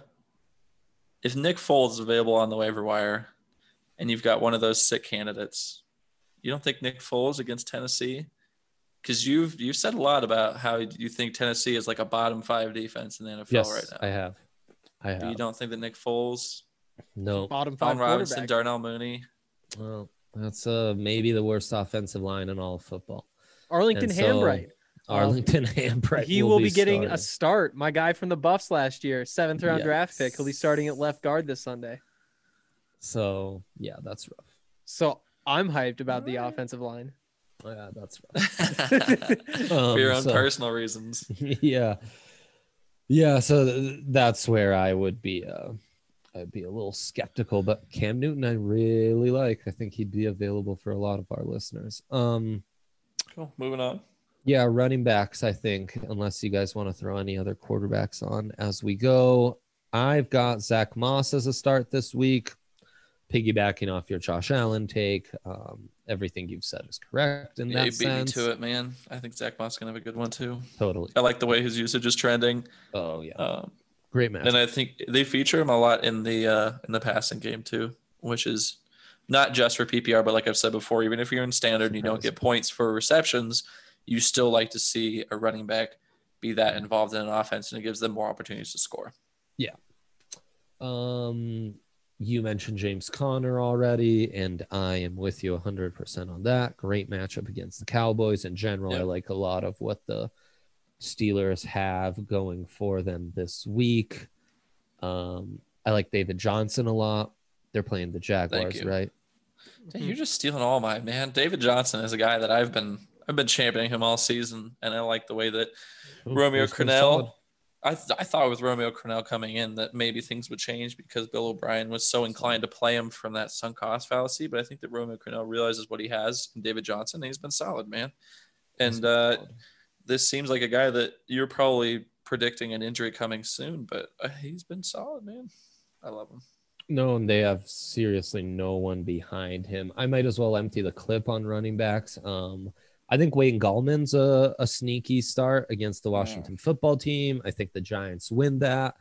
If Nick Foles is available on the waiver wire and you've got one of those sick candidates, you don't think Nick Foles against Tennessee? Because you've you've said a lot about how you think Tennessee is like a bottom five defense in the N F L Yes, right now. I have. I But you have. don't think that Nick Foles, No, Bottom five Allen Robinson, quarterback. Darnell Mooney, well, that's uh, maybe the worst offensive line in all of football. Arlington And so, Hambright. Arlington Hambright. He will be, getting starting. a start. My guy from the Buffs last year, seventh round draft pick. He'll be starting at left guard this Sunday. So yeah, that's rough. So I'm hyped about the offensive line. Oh, yeah, that's right. Um, For your own so- personal reasons. yeah, yeah. So th- that's where I would be. Uh, I'd be a little skeptical, but Cam Newton, I really like. I think he'd be available for a lot of our listeners. Um, Cool. Moving on. yeah, running backs. I think, unless you guys want to throw any other quarterbacks on as we go, I've got Zach Moss as a start this week. Piggybacking off your Josh Allen take, um, everything you've said is correct in Yeah, that you beat me sense. to it, man. I think Zach Moss is gonna have a good one too. Totally. I like the way his usage is trending. Oh yeah, Um, great match. and I think they feature him a lot in the uh, in the passing game too, which is not just for P P R, but like I've said before, even if you're in standard and you don't get points for receptions, you still like to see a running back be that involved in an offense, and it gives them more opportunities to score. Yeah. Um, you mentioned James Conner already, and I am with you one hundred percent on that. Great matchup against the Cowboys. In general, Yep. I like a lot of what the Steelers have going for them this week. Um, I like David Johnson a lot. They're playing the Jaguars, you. right? Dang, you're just stealing all mine, man. David Johnson is a guy that I've been I've been championing him all season, and I like the way that Ooh, Romeo he's been solid. Crennel. I th- I thought with Romeo Crennel coming in that maybe things would change because Bill O'Brien was so inclined to play him from that sunk cost fallacy. But I think that Romeo Crennel realizes what he has in David Johnson, and he's been solid, man. He's And been uh, solid. this seems like a guy that you're probably predicting an injury coming soon, but uh, he's been solid, man. I love him. No, and they have seriously no one behind him. I might as well empty the clip on running backs. Um, I think Wayne Gallman's a, a sneaky start against the Washington football team. I think the Giants win that.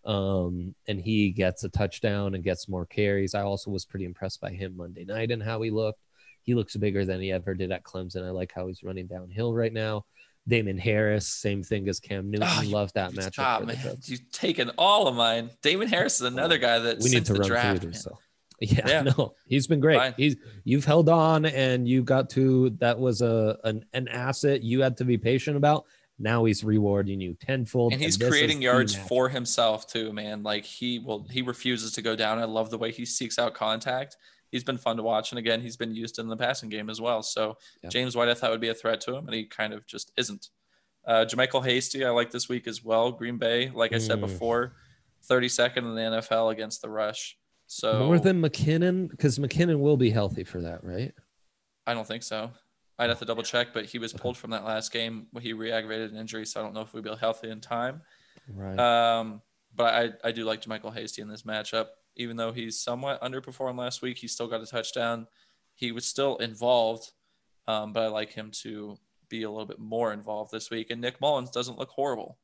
Um, and he gets a touchdown and gets more carries. I also was pretty impressed by him Monday night and how he looked. He looks bigger than he ever did at Clemson. I like how he's running downhill right now. Damon Harris, same thing as Cam Newton. Oh, you- Love that you matchup. stop, for the man. Jets. You've taken all of mine. Damon Harris is another guy that We need since to the run draft, through man. these. So. Yeah, Yeah. no, he's been great. Fine. He's you've held on and you got to that was a an, an asset you had to be patient about. Now he's rewarding you tenfold. And he's this is creating the yards match. for himself too, man. Like he will, he refuses to go down. I love the way he seeks out contact. He's been fun to watch, and again, he's been used in the passing game as well. So Yeah. James White, I thought would be a threat to him, and he kind of just isn't. Uh, Jermichael Hasty, I like this week as well. Green Bay, like I said Mm. before, thirty-second in the N F L against the rush. So More than McKinnon, because McKinnon will be healthy for that, right? I don't think so. I'd have to double check, but he was pulled from that last game when he re-aggravated an injury, so I don't know if we'll be healthy in time. Right. Um, but I, I do like Jermichael Hasty in this matchup. Even though he's somewhat underperformed last week, he still got a touchdown. He was still involved, um, but I like him to be a little bit more involved this week. And Nick Mullins doesn't look horrible.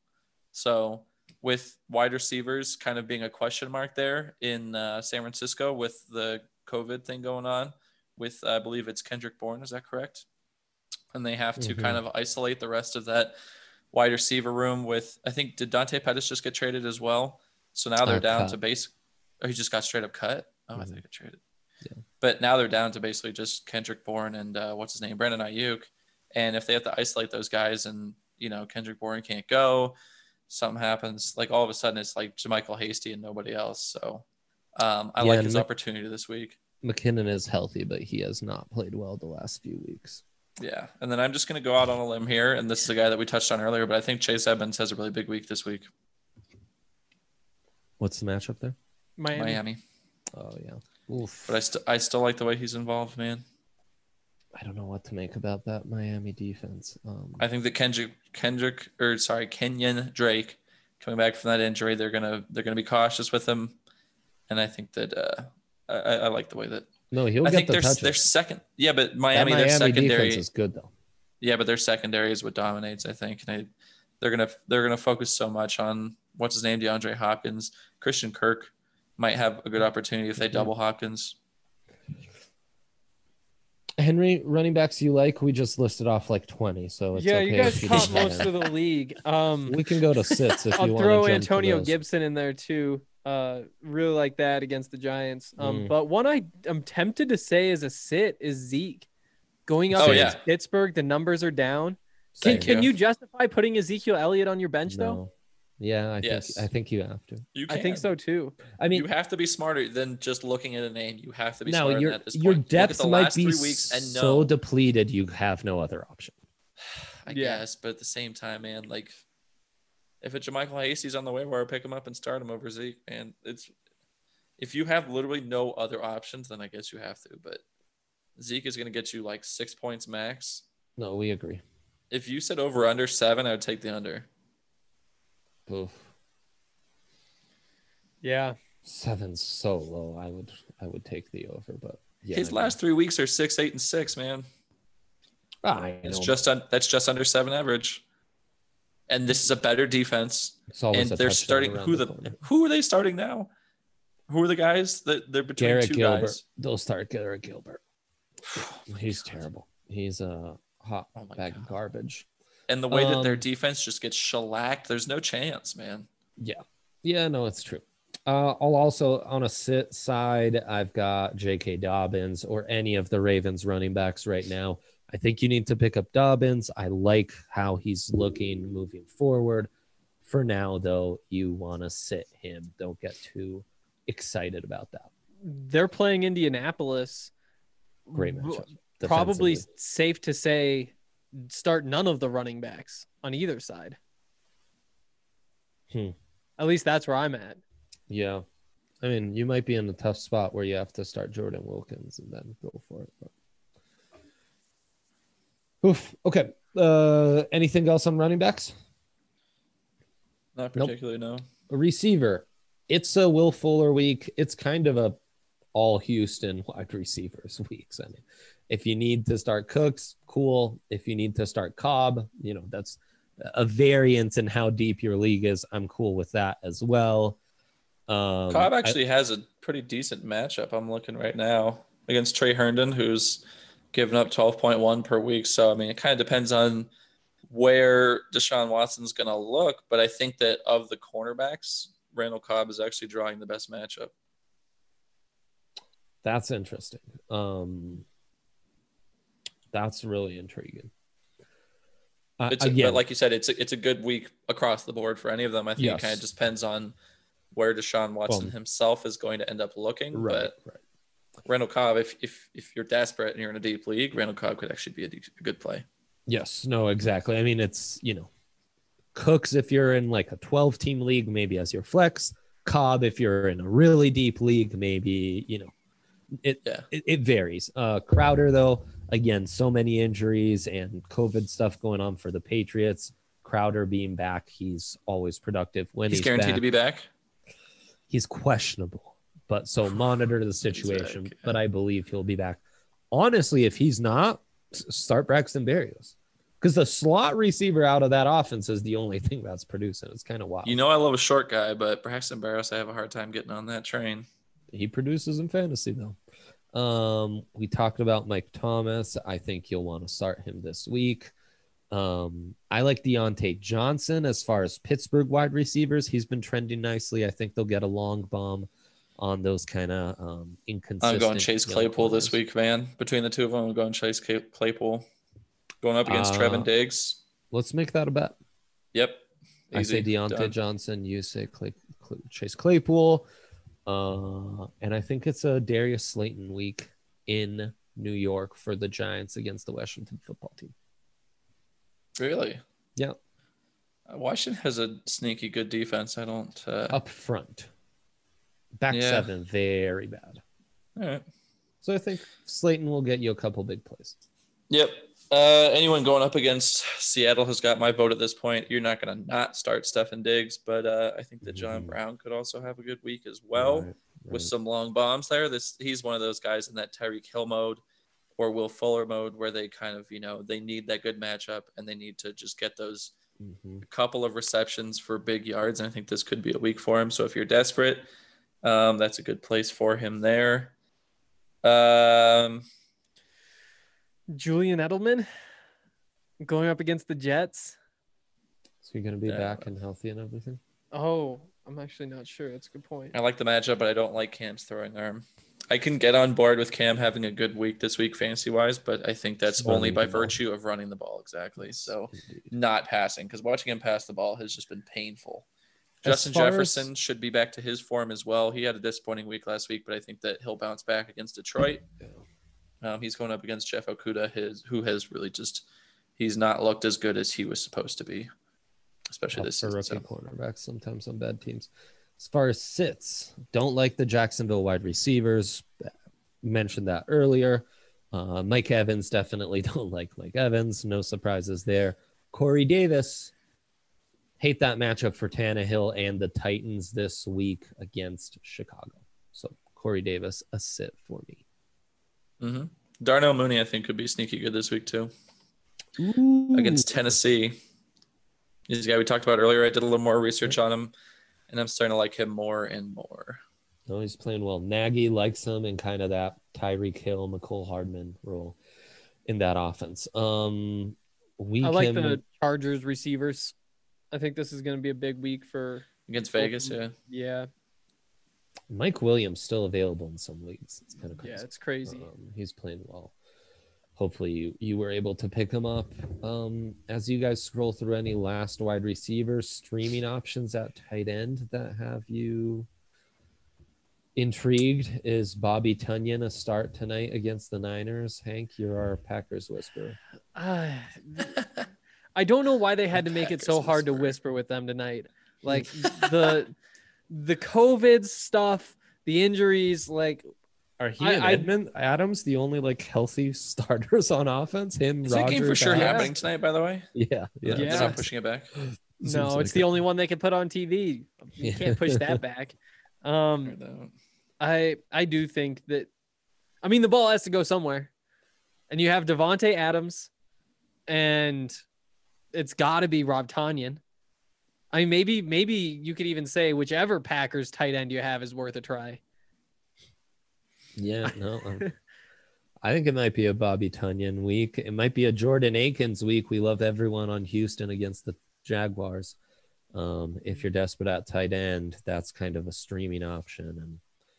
So with wide receivers kind of being a question mark there in uh, San Francisco with the COVID thing going on with, I believe it's Kendrick Bourne. Is that correct? And they have to Mhm. kind of isolate the rest of that wide receiver room with, I think, did Dante Pettis just get traded as well? So now they're Uh, down cut. to base. Oh, he just got straight up cut. Oh, I Mhm. think he got traded. Yeah. But now they're down to basically just Kendrick Bourne and uh, what's his name, Brandon Ayuk. And if they have to isolate those guys, and you know Kendrick Bourne can't go, something happens. Like all of a sudden, it's like Jermichael Hasty and nobody else. So um, I Yeah, like and his Mc- opportunity this week. McKinnon is healthy, but he has not played well the last few weeks. Yeah, and then I'm just going to go out on a limb here, and this is a guy that we touched on earlier, but I think Chase Edmonds has a really big week this week. What's the matchup there? Miami. Miami, Oh yeah. Oof. but I still I still like the way he's involved, man. I don't know what to make about that Miami defense. Um, I think that Kendrick Kendrick or sorry Kenyon Drake coming back from that injury, they're gonna they're gonna be cautious with him, and I think that uh, I, I like the way that no, he'll I get think the their touches. their second yeah, but That Miami, Miami their secondary defense is good though. yeah, but their secondary is what dominates. I think, and I, they're gonna they're gonna focus so much on what's his name, DeAndre Hopkins. Christian Kirk might have a good opportunity if they Mhm. double Hopkins. Henry, running backs you like? We just listed off like twenty, so it's yeah, okay you guys if you caught didn't most have of the league. Um, We can go to sits if I'll you want throw to jump Antonio to those. Gibson in there too. Uh, really like that against the Giants. Um, Mm. but one I am tempted to say is a sit is Zeke going up Oh, against yeah. Pittsburgh. The numbers are down. Same Can can here. you justify putting Ezekiel Elliott on your bench though? No, Yeah, I Yes. think I think you have to. You I think can. so too. I mean, You have to be smarter than just looking at a name. You have to be no, smarter than your that at this your point. Look at depth the might last be three weeks and so no. depleted you have no other option. I Yeah. guess, but at the same time, man, like if a JaMychal Hasty's on the waiver, pick him up and start him over Zeke. And it's if you have literally no other options, then I guess you have to. But Zeke is going to get you like six points max. No, we agree. If you said over under seven, I would take the under. Oof. Yeah. Seven's so low. I would I would take the over, but yeah. His I last three weeks are six, eight, and six, man. know. I It's know, just un- that's just under seven average. And this is a better defense. it's always And a they're touchdown starting around who the the corner. who are they starting now? Who are the guys that they're between Garrett two Gilbert. guys? They'll start Garrett Gilbert. He's terrible. He's a hot Oh my bag God. of garbage. And the way that their Um, defense just gets shellacked, there's no chance, man. Yeah. Yeah, no, it's true. Uh, I'll also on a sit side, I've got J K. Dobbins or any of the Ravens running backs right now. I think you need to pick up Dobbins. I like how he's looking moving forward. For now, though, you want to sit him. Don't get too excited about that. They're playing Indianapolis. Great matchup. Probably defensively. safe to say start none of the running backs on either side. Hmm. At least that's where I'm at. Yeah. I mean, you might be in a tough spot where you have to start Jordan Wilkins and then go for it. But... Oof. Okay. Uh, anything else on running backs? Not Nope. particularly, no. A receiver. It's a Will Fuller week. It's kind of a all Houston wide receivers weeks. I mean, if you need to start Cooks, cool. If you need to start Cobb, you know, that's a variance in how deep your league is. I'm cool with that as well. Um, Cobb I- actually has a pretty decent matchup. I'm looking right now against Trey Herndon, who's given up twelve point one per week. So, I mean, it kind of depends on where Deshaun Watson's going to look. But I think that of the cornerbacks, Randall Cobb is actually drawing the best matchup. That's interesting. Um, that's really intriguing. Uh, It's again, but like you said, it's a, it's a good week across the board for any of them. I think Yes. it kind of just depends on where Deshaun Watson Well, himself is going to end up looking. right, But right. Randall Cobb, if if if you're desperate and you're in a deep league, Randall Cobb could actually be a, de- a good play. Yes, no, exactly. I mean, it's, you know, Cooks if you're in like a twelve team league, maybe as your flex. Cobb if you're in a really deep league, maybe, you know, it Yeah. it, it varies. Uh, Crowder, though, again, so many injuries and COVID stuff going on for the Patriots. Crowder being back, he's always productive when He's, he's, guaranteed back. to be back. He's questionable, but so monitor the situation. back, yeah. But I believe he'll be back. Honestly, if he's not, s- start Braxton Berrios, because the slot receiver out of that offense is the only thing that's producing. It's kind of wild. You know, I love a short guy, but Braxton Berrios, I have a hard time getting on that train. He produces in fantasy though. Um, we talked about Mike Thomas. I think you'll want to start him this week. Um, I like Deontay Johnson as far as Pittsburgh wide receivers. He's been trending nicely. I think they'll get a long bomb on those kind of um, inconsistent. I'm going Chase young Claypool this corners. week, man. Between the two of them, I'm going Chase Clay- Claypool. Going up against Uh, Trevin Diggs. Let's make that a bet. Yep. I say Easy. Deontay Done. Johnson. You say Clay, Clay, Chase Claypool. Uh, and I think it's a Darius Slayton week in New York for the Giants against the Washington football team. Really? Yeah. Uh, Washington has a sneaky good defense. I don't. Uh, Up front. Back Yeah. seven, very bad. all right. So I think Slayton will get you a couple big plays. Yep. Uh, anyone going up against Seattle has got my vote at this point. You're not going to not start Stefan Diggs, but uh, I think that John Mhm. Brown could also have a good week as well. Right, With right. some long bombs there. This he's one of those guys in that Tyreek Hill mode or Will Fuller mode where they kind of, you know, they need that good matchup and they need to just get those Mhm. couple of receptions for big yards. And I think this could be a week for him. So if you're desperate, um, that's a good place for him there. Um, Julian Edelman going up against the Jets. So you're going to be Yeah. back and healthy and everything? Oh, I'm actually not sure. That's a good point. I like the matchup, but I don't like Cam's throwing arm. I can get on board with Cam having a good week this week fantasy wise, but I think that's Running only by the ball. virtue of running the ball. Exactly. So Indeed. not passing, because watching him pass the ball has just been painful. As Justin far as- Jefferson should be back to his form as well. He had a disappointing week last week, but I think that he'll bounce back against Detroit. Um, he's going up against Jeff Okuda, his who has really just he's not looked as good as he was supposed to be, especially this for season. rookie So. cornerbacks sometimes on bad teams. As far as sits, don't like the Jacksonville wide receivers. Mentioned that earlier. Uh, Mike Evans, definitely don't like Mike Evans. No surprises there. Corey Davis, hate that matchup for Tannehill and the Titans this week against Chicago. So Corey Davis, a sit for me. Mm-hmm. Darnell Mooney, I think, could be sneaky good this week too Ooh. against Tennessee. He's a guy we talked about earlier. I did a little more research on him, and I'm starting to like him more and more. No, he's playing well. Nagy likes him in kind of that Tyreek Hill, McCole Hardman role in that offense. Um, we I like can, the Chargers receivers. I think this is going to be a big week for Against Vegas, yeah. yeah, Mike Williams still available in some leagues. It's kind of crazy. yeah, it's crazy. Um, he's playing well. Hopefully you, you were able to pick him up. Um, as you guys scroll through any last wide receivers, streaming options at tight end that have you intrigued, is Bobby Tunyon a start tonight against the Niners? Hank, you're our Packers whisperer. Uh, I don't know why they had to make it so Packers hard to whisperer. whisper with them tonight. Like the the COVID stuff, the injuries, like Are he I- and I- Edmund Adams the only like healthy starters on offense? Him, Is that game for Rodgers, sure Adams? happening tonight, by the way? Yeah, yeah. Yeah. They're not pushing it back. Seems no, like it's the it. only one they can put on T V. You can't push that back. Um, Heard that. I I do think that, I mean, the ball has to go somewhere, and you have Devonte Adams, and it's got to be Rob Tanyan. I mean, maybe maybe you could even say whichever Packers tight end you have is worth a try. Yeah, no. um, I think it might be a Bobby Tunyon week. It might be a Jordan Akins week. We love everyone on Houston against the Jaguars. Um, if you're desperate at tight end, that's kind of a streaming option. And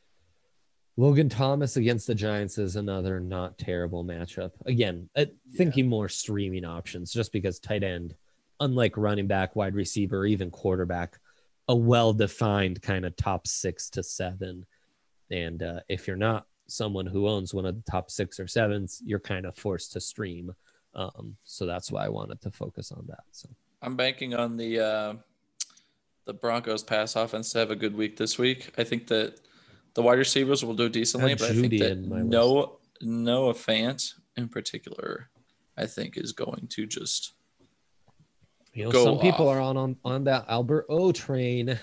Logan Thomas against the Giants is another not terrible matchup. Again, uh, thinking more streaming options, just because tight end, unlike running back, wide receiver, or even quarterback, a well-defined kind of top six to seven. And uh, if you're not someone who owns one of the top six or sevens, you're kind of forced to stream. Um, so that's why I wanted to focus on that. So I'm banking on the uh, the Broncos pass offense to have a good week this week. I think that the wide receivers will do decently, Had but I Judy think that in my Noah, Noah Fant in particular, I think is going to just you know, Go some people off. are on, on on that Albert O train.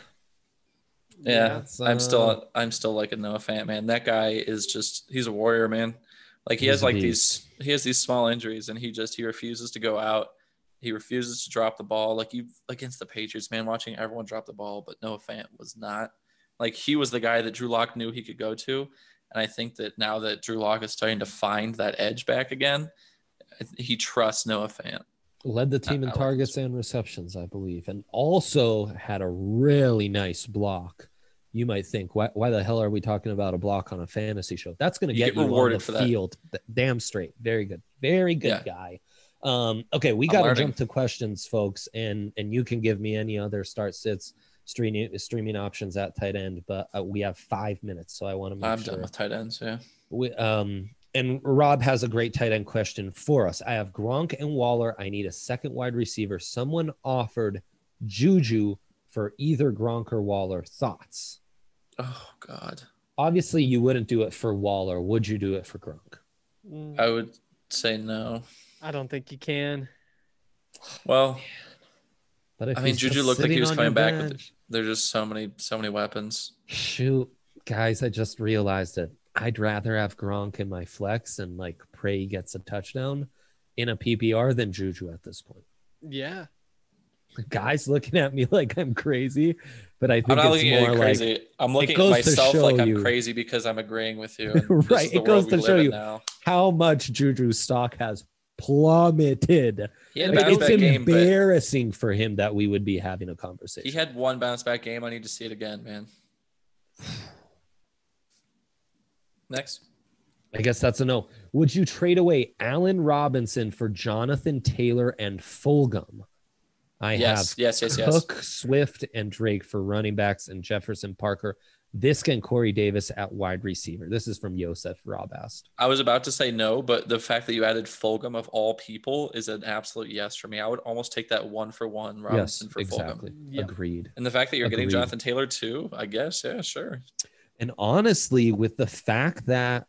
yeah. That's, I'm uh, still I'm still liking Noah Fant, man. That guy is just he's a warrior, man. Like he He's has a like beast. these he has these small injuries, and he just he refuses to go out. He refuses to drop the ball. Like you against the Patriots, man, watching everyone drop the ball, but Noah Fant was not. Like he was the guy that Drew Lock knew he could go to. And I think that now that Drew Lock is starting to find that edge back again, I th- he trusts Noah Fant. Led the team I- in I like targets and receptions, I believe, and also had a really nice block. You might think, why, why the hell are we talking about a block on a fantasy show? That's going to You get, get you on rewarded the for that. field. Th- Damn straight. Very good. Very good Yeah. guy. Um, okay, we I'm got to learning. jump to questions, folks, and and you can give me any other start sits streaming streaming options at tight end, but uh, we have five minutes, so I want to make I'm sure. done with tight ends. Yeah. We, um, and Rob has a great tight end question for us. I have Gronk and Waller. I need a second wide receiver. Someone offered Juju for either Gronk or Waller. Thoughts? Oh God. Obviously, you wouldn't do it for Waller. Would you do it for Gronk? Mm, I would say no. I don't think you can. Well, But if I mean, he's Juju just looked like he sitting was on coming your back with bench- there's just so many so many weapons. Shoot, guys, I just realized it. I'd rather have Gronk in my flex and like pray he gets a touchdown in a P P R than Juju at this point. Yeah. Guys looking at me like I'm crazy, but I I'm think not it's looking at more you like crazy. I'm looking at goes to myself like show I'm you- crazy because I'm agreeing with you. and this Right, is the it goes world to we show live in you now. how much Juju's stock has plummeted. He had a Like, bounce it's back game, but embarrassing for him that we would be having a conversation. he had one bounce back game. I need to see it again, man. Next. I guess that's a no. Would you trade away Allen Robinson for Jonathan Taylor and Fulgham? I Yes, have yes, yes, yes. Cook, Swift, and Drake for running backs, and Jefferson, Parker, Viska, and Corey Davis at wide receiver. This is from Yosef Rabast. I was about to say no, but the fact that you added Fulgham of all people is an absolute yes for me. I would almost take that one for one Robinson Yes, for exactly. Fulgham. Yeah. Agreed. And the fact that you're getting Agreed. Jonathan Taylor too, I guess, yeah, sure. And honestly, with the fact that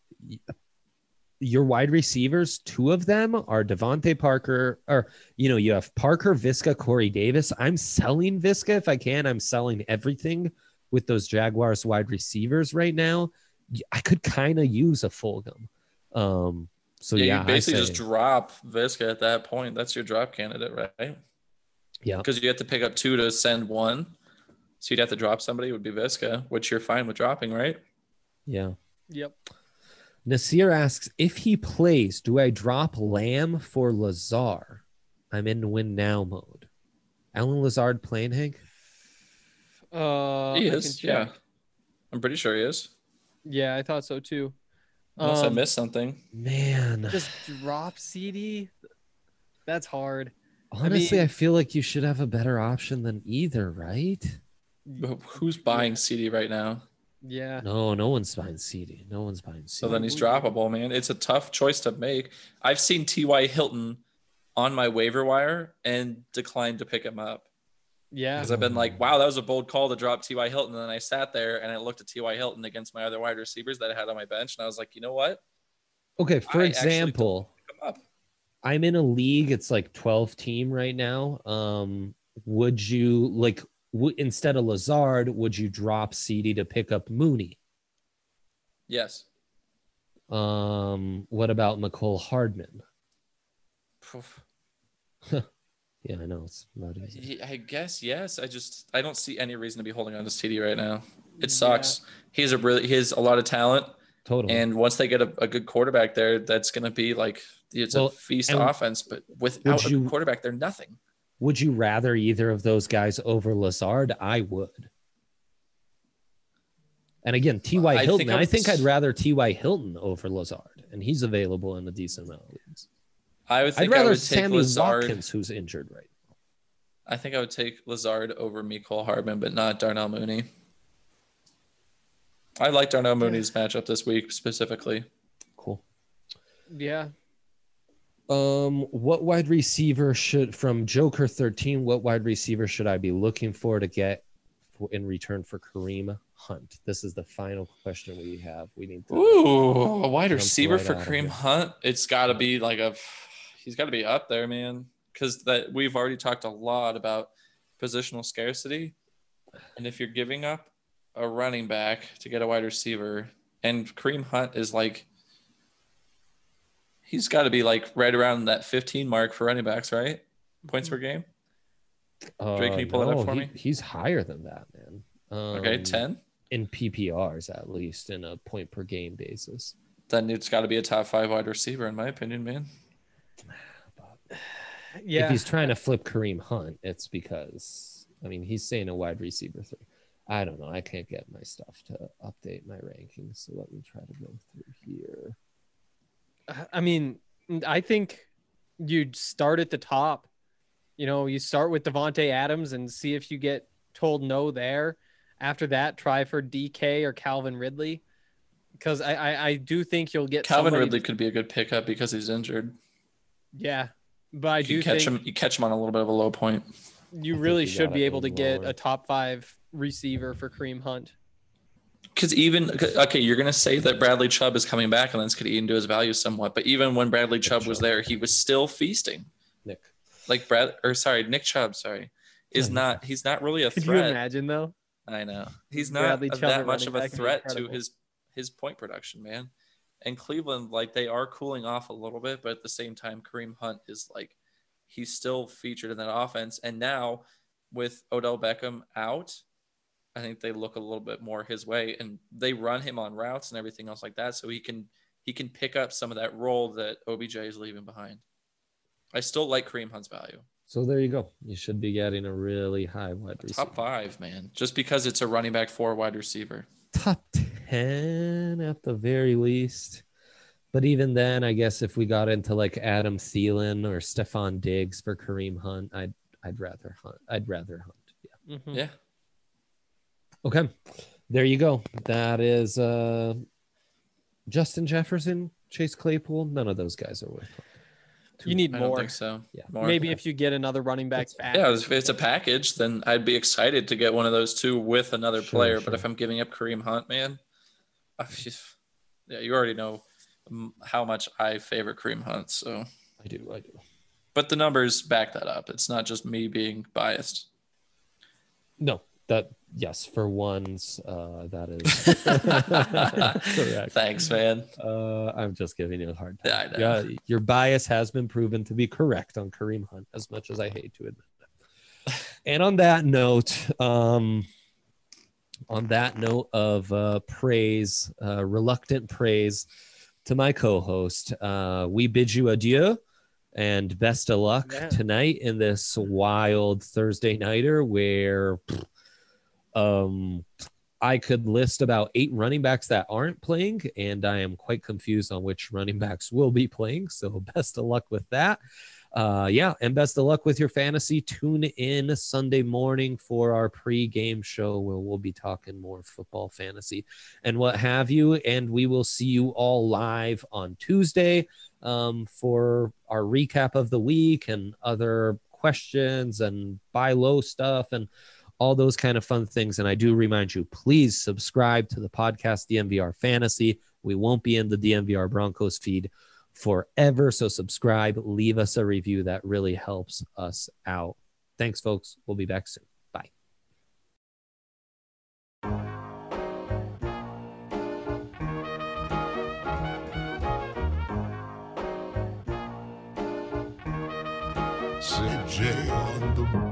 your wide receivers, two of them are Devontae Parker, or, you know, you have Parker, Viska, Corey Davis. I'm selling Viska if I can. I'm selling everything with those Jaguars wide receivers right now. I could kind of use a Fulgham. Um, so yeah, yeah, you basically I say, just drop Viska at that point. That's your drop candidate, right? yeah, Because you have to pick up two to send one. So you'd have to drop somebody, it would be Viska, which you're fine with dropping, right? yeah. Yep. Nasir asks, if he plays, do I drop Lamb for Lazar? I'm in win now mode. Alan Lazard playing, Hank? Uh, he I is, can yeah. check. I'm pretty sure he is. Yeah, I thought so too. Unless I Um, missed something. Man, just drop C D. That's hard. honestly, I, mean- feel like you should have a better option than either, right? Who's buying C D right now? Yeah. No, no one's buying C D. No one's buying C D. So then he's droppable, man. It's a tough choice to make. I've seen T Y. Hilton on my waiver wire and declined to pick him up Yeah. because I've been like, wow, that was a bold call to drop T Y. Hilton. And then I sat there and I looked at T Y. Hilton against my other wide receivers that I had on my bench. And I was like, you know what? Okay, for I actually example, Pick him up. I'm in a league. It's like twelve team right now. Um, would you like w- instead of Lazard, would you drop C D to pick up Mooney? Yes. Um, what about McCole Hardman? Poof. Yeah, I know it's not easy. I guess yes. I just I don't see any reason to be holding on to C D right now. It sucks. He's a really he has a lot of talent, Totally. and once they get a, a good quarterback there, that's gonna be like it's Well, a feast and offense. But without a you- good quarterback, they're nothing. Would you rather either of those guys over Lazard? I would. And again, T Y. I Hilton. think I I would- think I'd rather T Y. Hilton over Lazard, and he's available in a decent amount of leagues. I would I'd think I rather would take Sammy Lazard. Watkins, who's injured right now. I think I would take Lazard over Mecole Hardman, but not Darnell Mooney. I like Darnell Mooney's matchup this week specifically. Cool. Yeah. Um, what wide receiver should from Joker thirteen? What wide receiver should I be looking for to get for, in return for Kareem Hunt? This is the final question we have. We need to. Ooh, a wide Jump receiver right for out of Kareem here. Hunt. It's got to be like a, he's got to be up there, man. Because that we've already talked a lot about positional scarcity, and if you're giving up a running back to get a wide receiver, and Kareem Hunt is like, he's got to be like right around that fifteen mark for running backs, right? Points per game. Uh, Drake, can you pull it up no, for he- me? He's higher than that, man. Um, Okay, ten. in P P Rs at least, in a point per game basis. Then it's got to be a top five wide receiver, in my opinion, man. Yeah. If he's trying to flip Kareem Hunt, it's because I mean he's saying a wide receiver three. I don't know. I can't get my stuff to update my rankings, so let me try to go through here. I mean, I think you'd start at the top. You know, you start with Devontae Adams and see if you get told no there. After that, try for D K or Calvin Ridley, because I, I I do think you'll get Calvin somebody- Ridley could be a good pickup because he's injured. Yeah, but I You do catch think him. You catch him on a little bit of a low point. you I think really you should gotta be able to aim get lower. a top five receiver for Kareem Hunt. Because even okay, you're gonna say that Bradley Chubb is coming back, and that's gonna eat into his value somewhat. But even when Bradley Chubb was Chubb. there, he was still feasting. Nick. Like Brad, or sorry, Nick Chubb. Sorry, is Yeah. not. He's not really a Could you threat. imagine though? I know he's not Bradley a- Chubb that at much running of a back would be threat to incredible. his his point production, man. And Cleveland, like they are cooling off a little bit, but at the same time, Kareem Hunt is like he's still featured in that offense. And now with Odell Beckham out, I think they look a little bit more his way, and they run him on routes and everything else like that, so he can he can pick up some of that role that O B J is leaving behind. I still like Kareem Hunt's value. So there you go. You should be getting a really high wide receiver. Top five, man. Just because it's a running back for a wide receiver. Top ten at the very least. But even then, I guess if we got into like Adam Thielen or Stephon Diggs for Kareem Hunt, I'd I'd rather hunt. I'd rather hunt. Yeah. Mhm. Yeah. Okay. There you go. That is uh, Justin Jefferson, Chase Claypool. None of those guys are worth it. You need I don't more. think so. Yeah. More. Maybe if you get another running back That's- back. Yeah, if it's a package, then I'd be excited to get one of those two with another Sure, player. sure. But if I'm giving up Kareem Hunt, man, I just, yeah, you already know um, how much I favor Kareem Hunt. So, I do. I do. but the numbers back that up. It's not just me being biased. No, that yes, for ones, uh, that is correct. Thanks, man. Uh, I'm just giving you a hard time. Yeah, I know. Yeah, your bias has been proven to be correct on Kareem Hunt, as much as I hate to admit that. And on that note, um, on that note of uh, praise, uh, reluctant praise to my co-host, uh, we bid you adieu and best of luck Yeah. tonight in this wild Thursday nighter where pff, um, I could list about eight running backs that aren't playing, and I am quite confused on which running backs will be playing. So best of luck with that. Uh, yeah, and best of luck with your fantasy. Tune in Sunday morning for our pre-game show where we'll be talking more football fantasy and what have you. And we will see you all live on Tuesday um, for our recap of the week and other questions and buy low stuff and all those kind of fun things. And I do remind you, please subscribe to the podcast, D M V R Fantasy. We won't be in the D M V R Broncos feed forever. So subscribe, leave us a review. That really helps us out. Thanks, folks. We'll be back soon. Bye. C J on the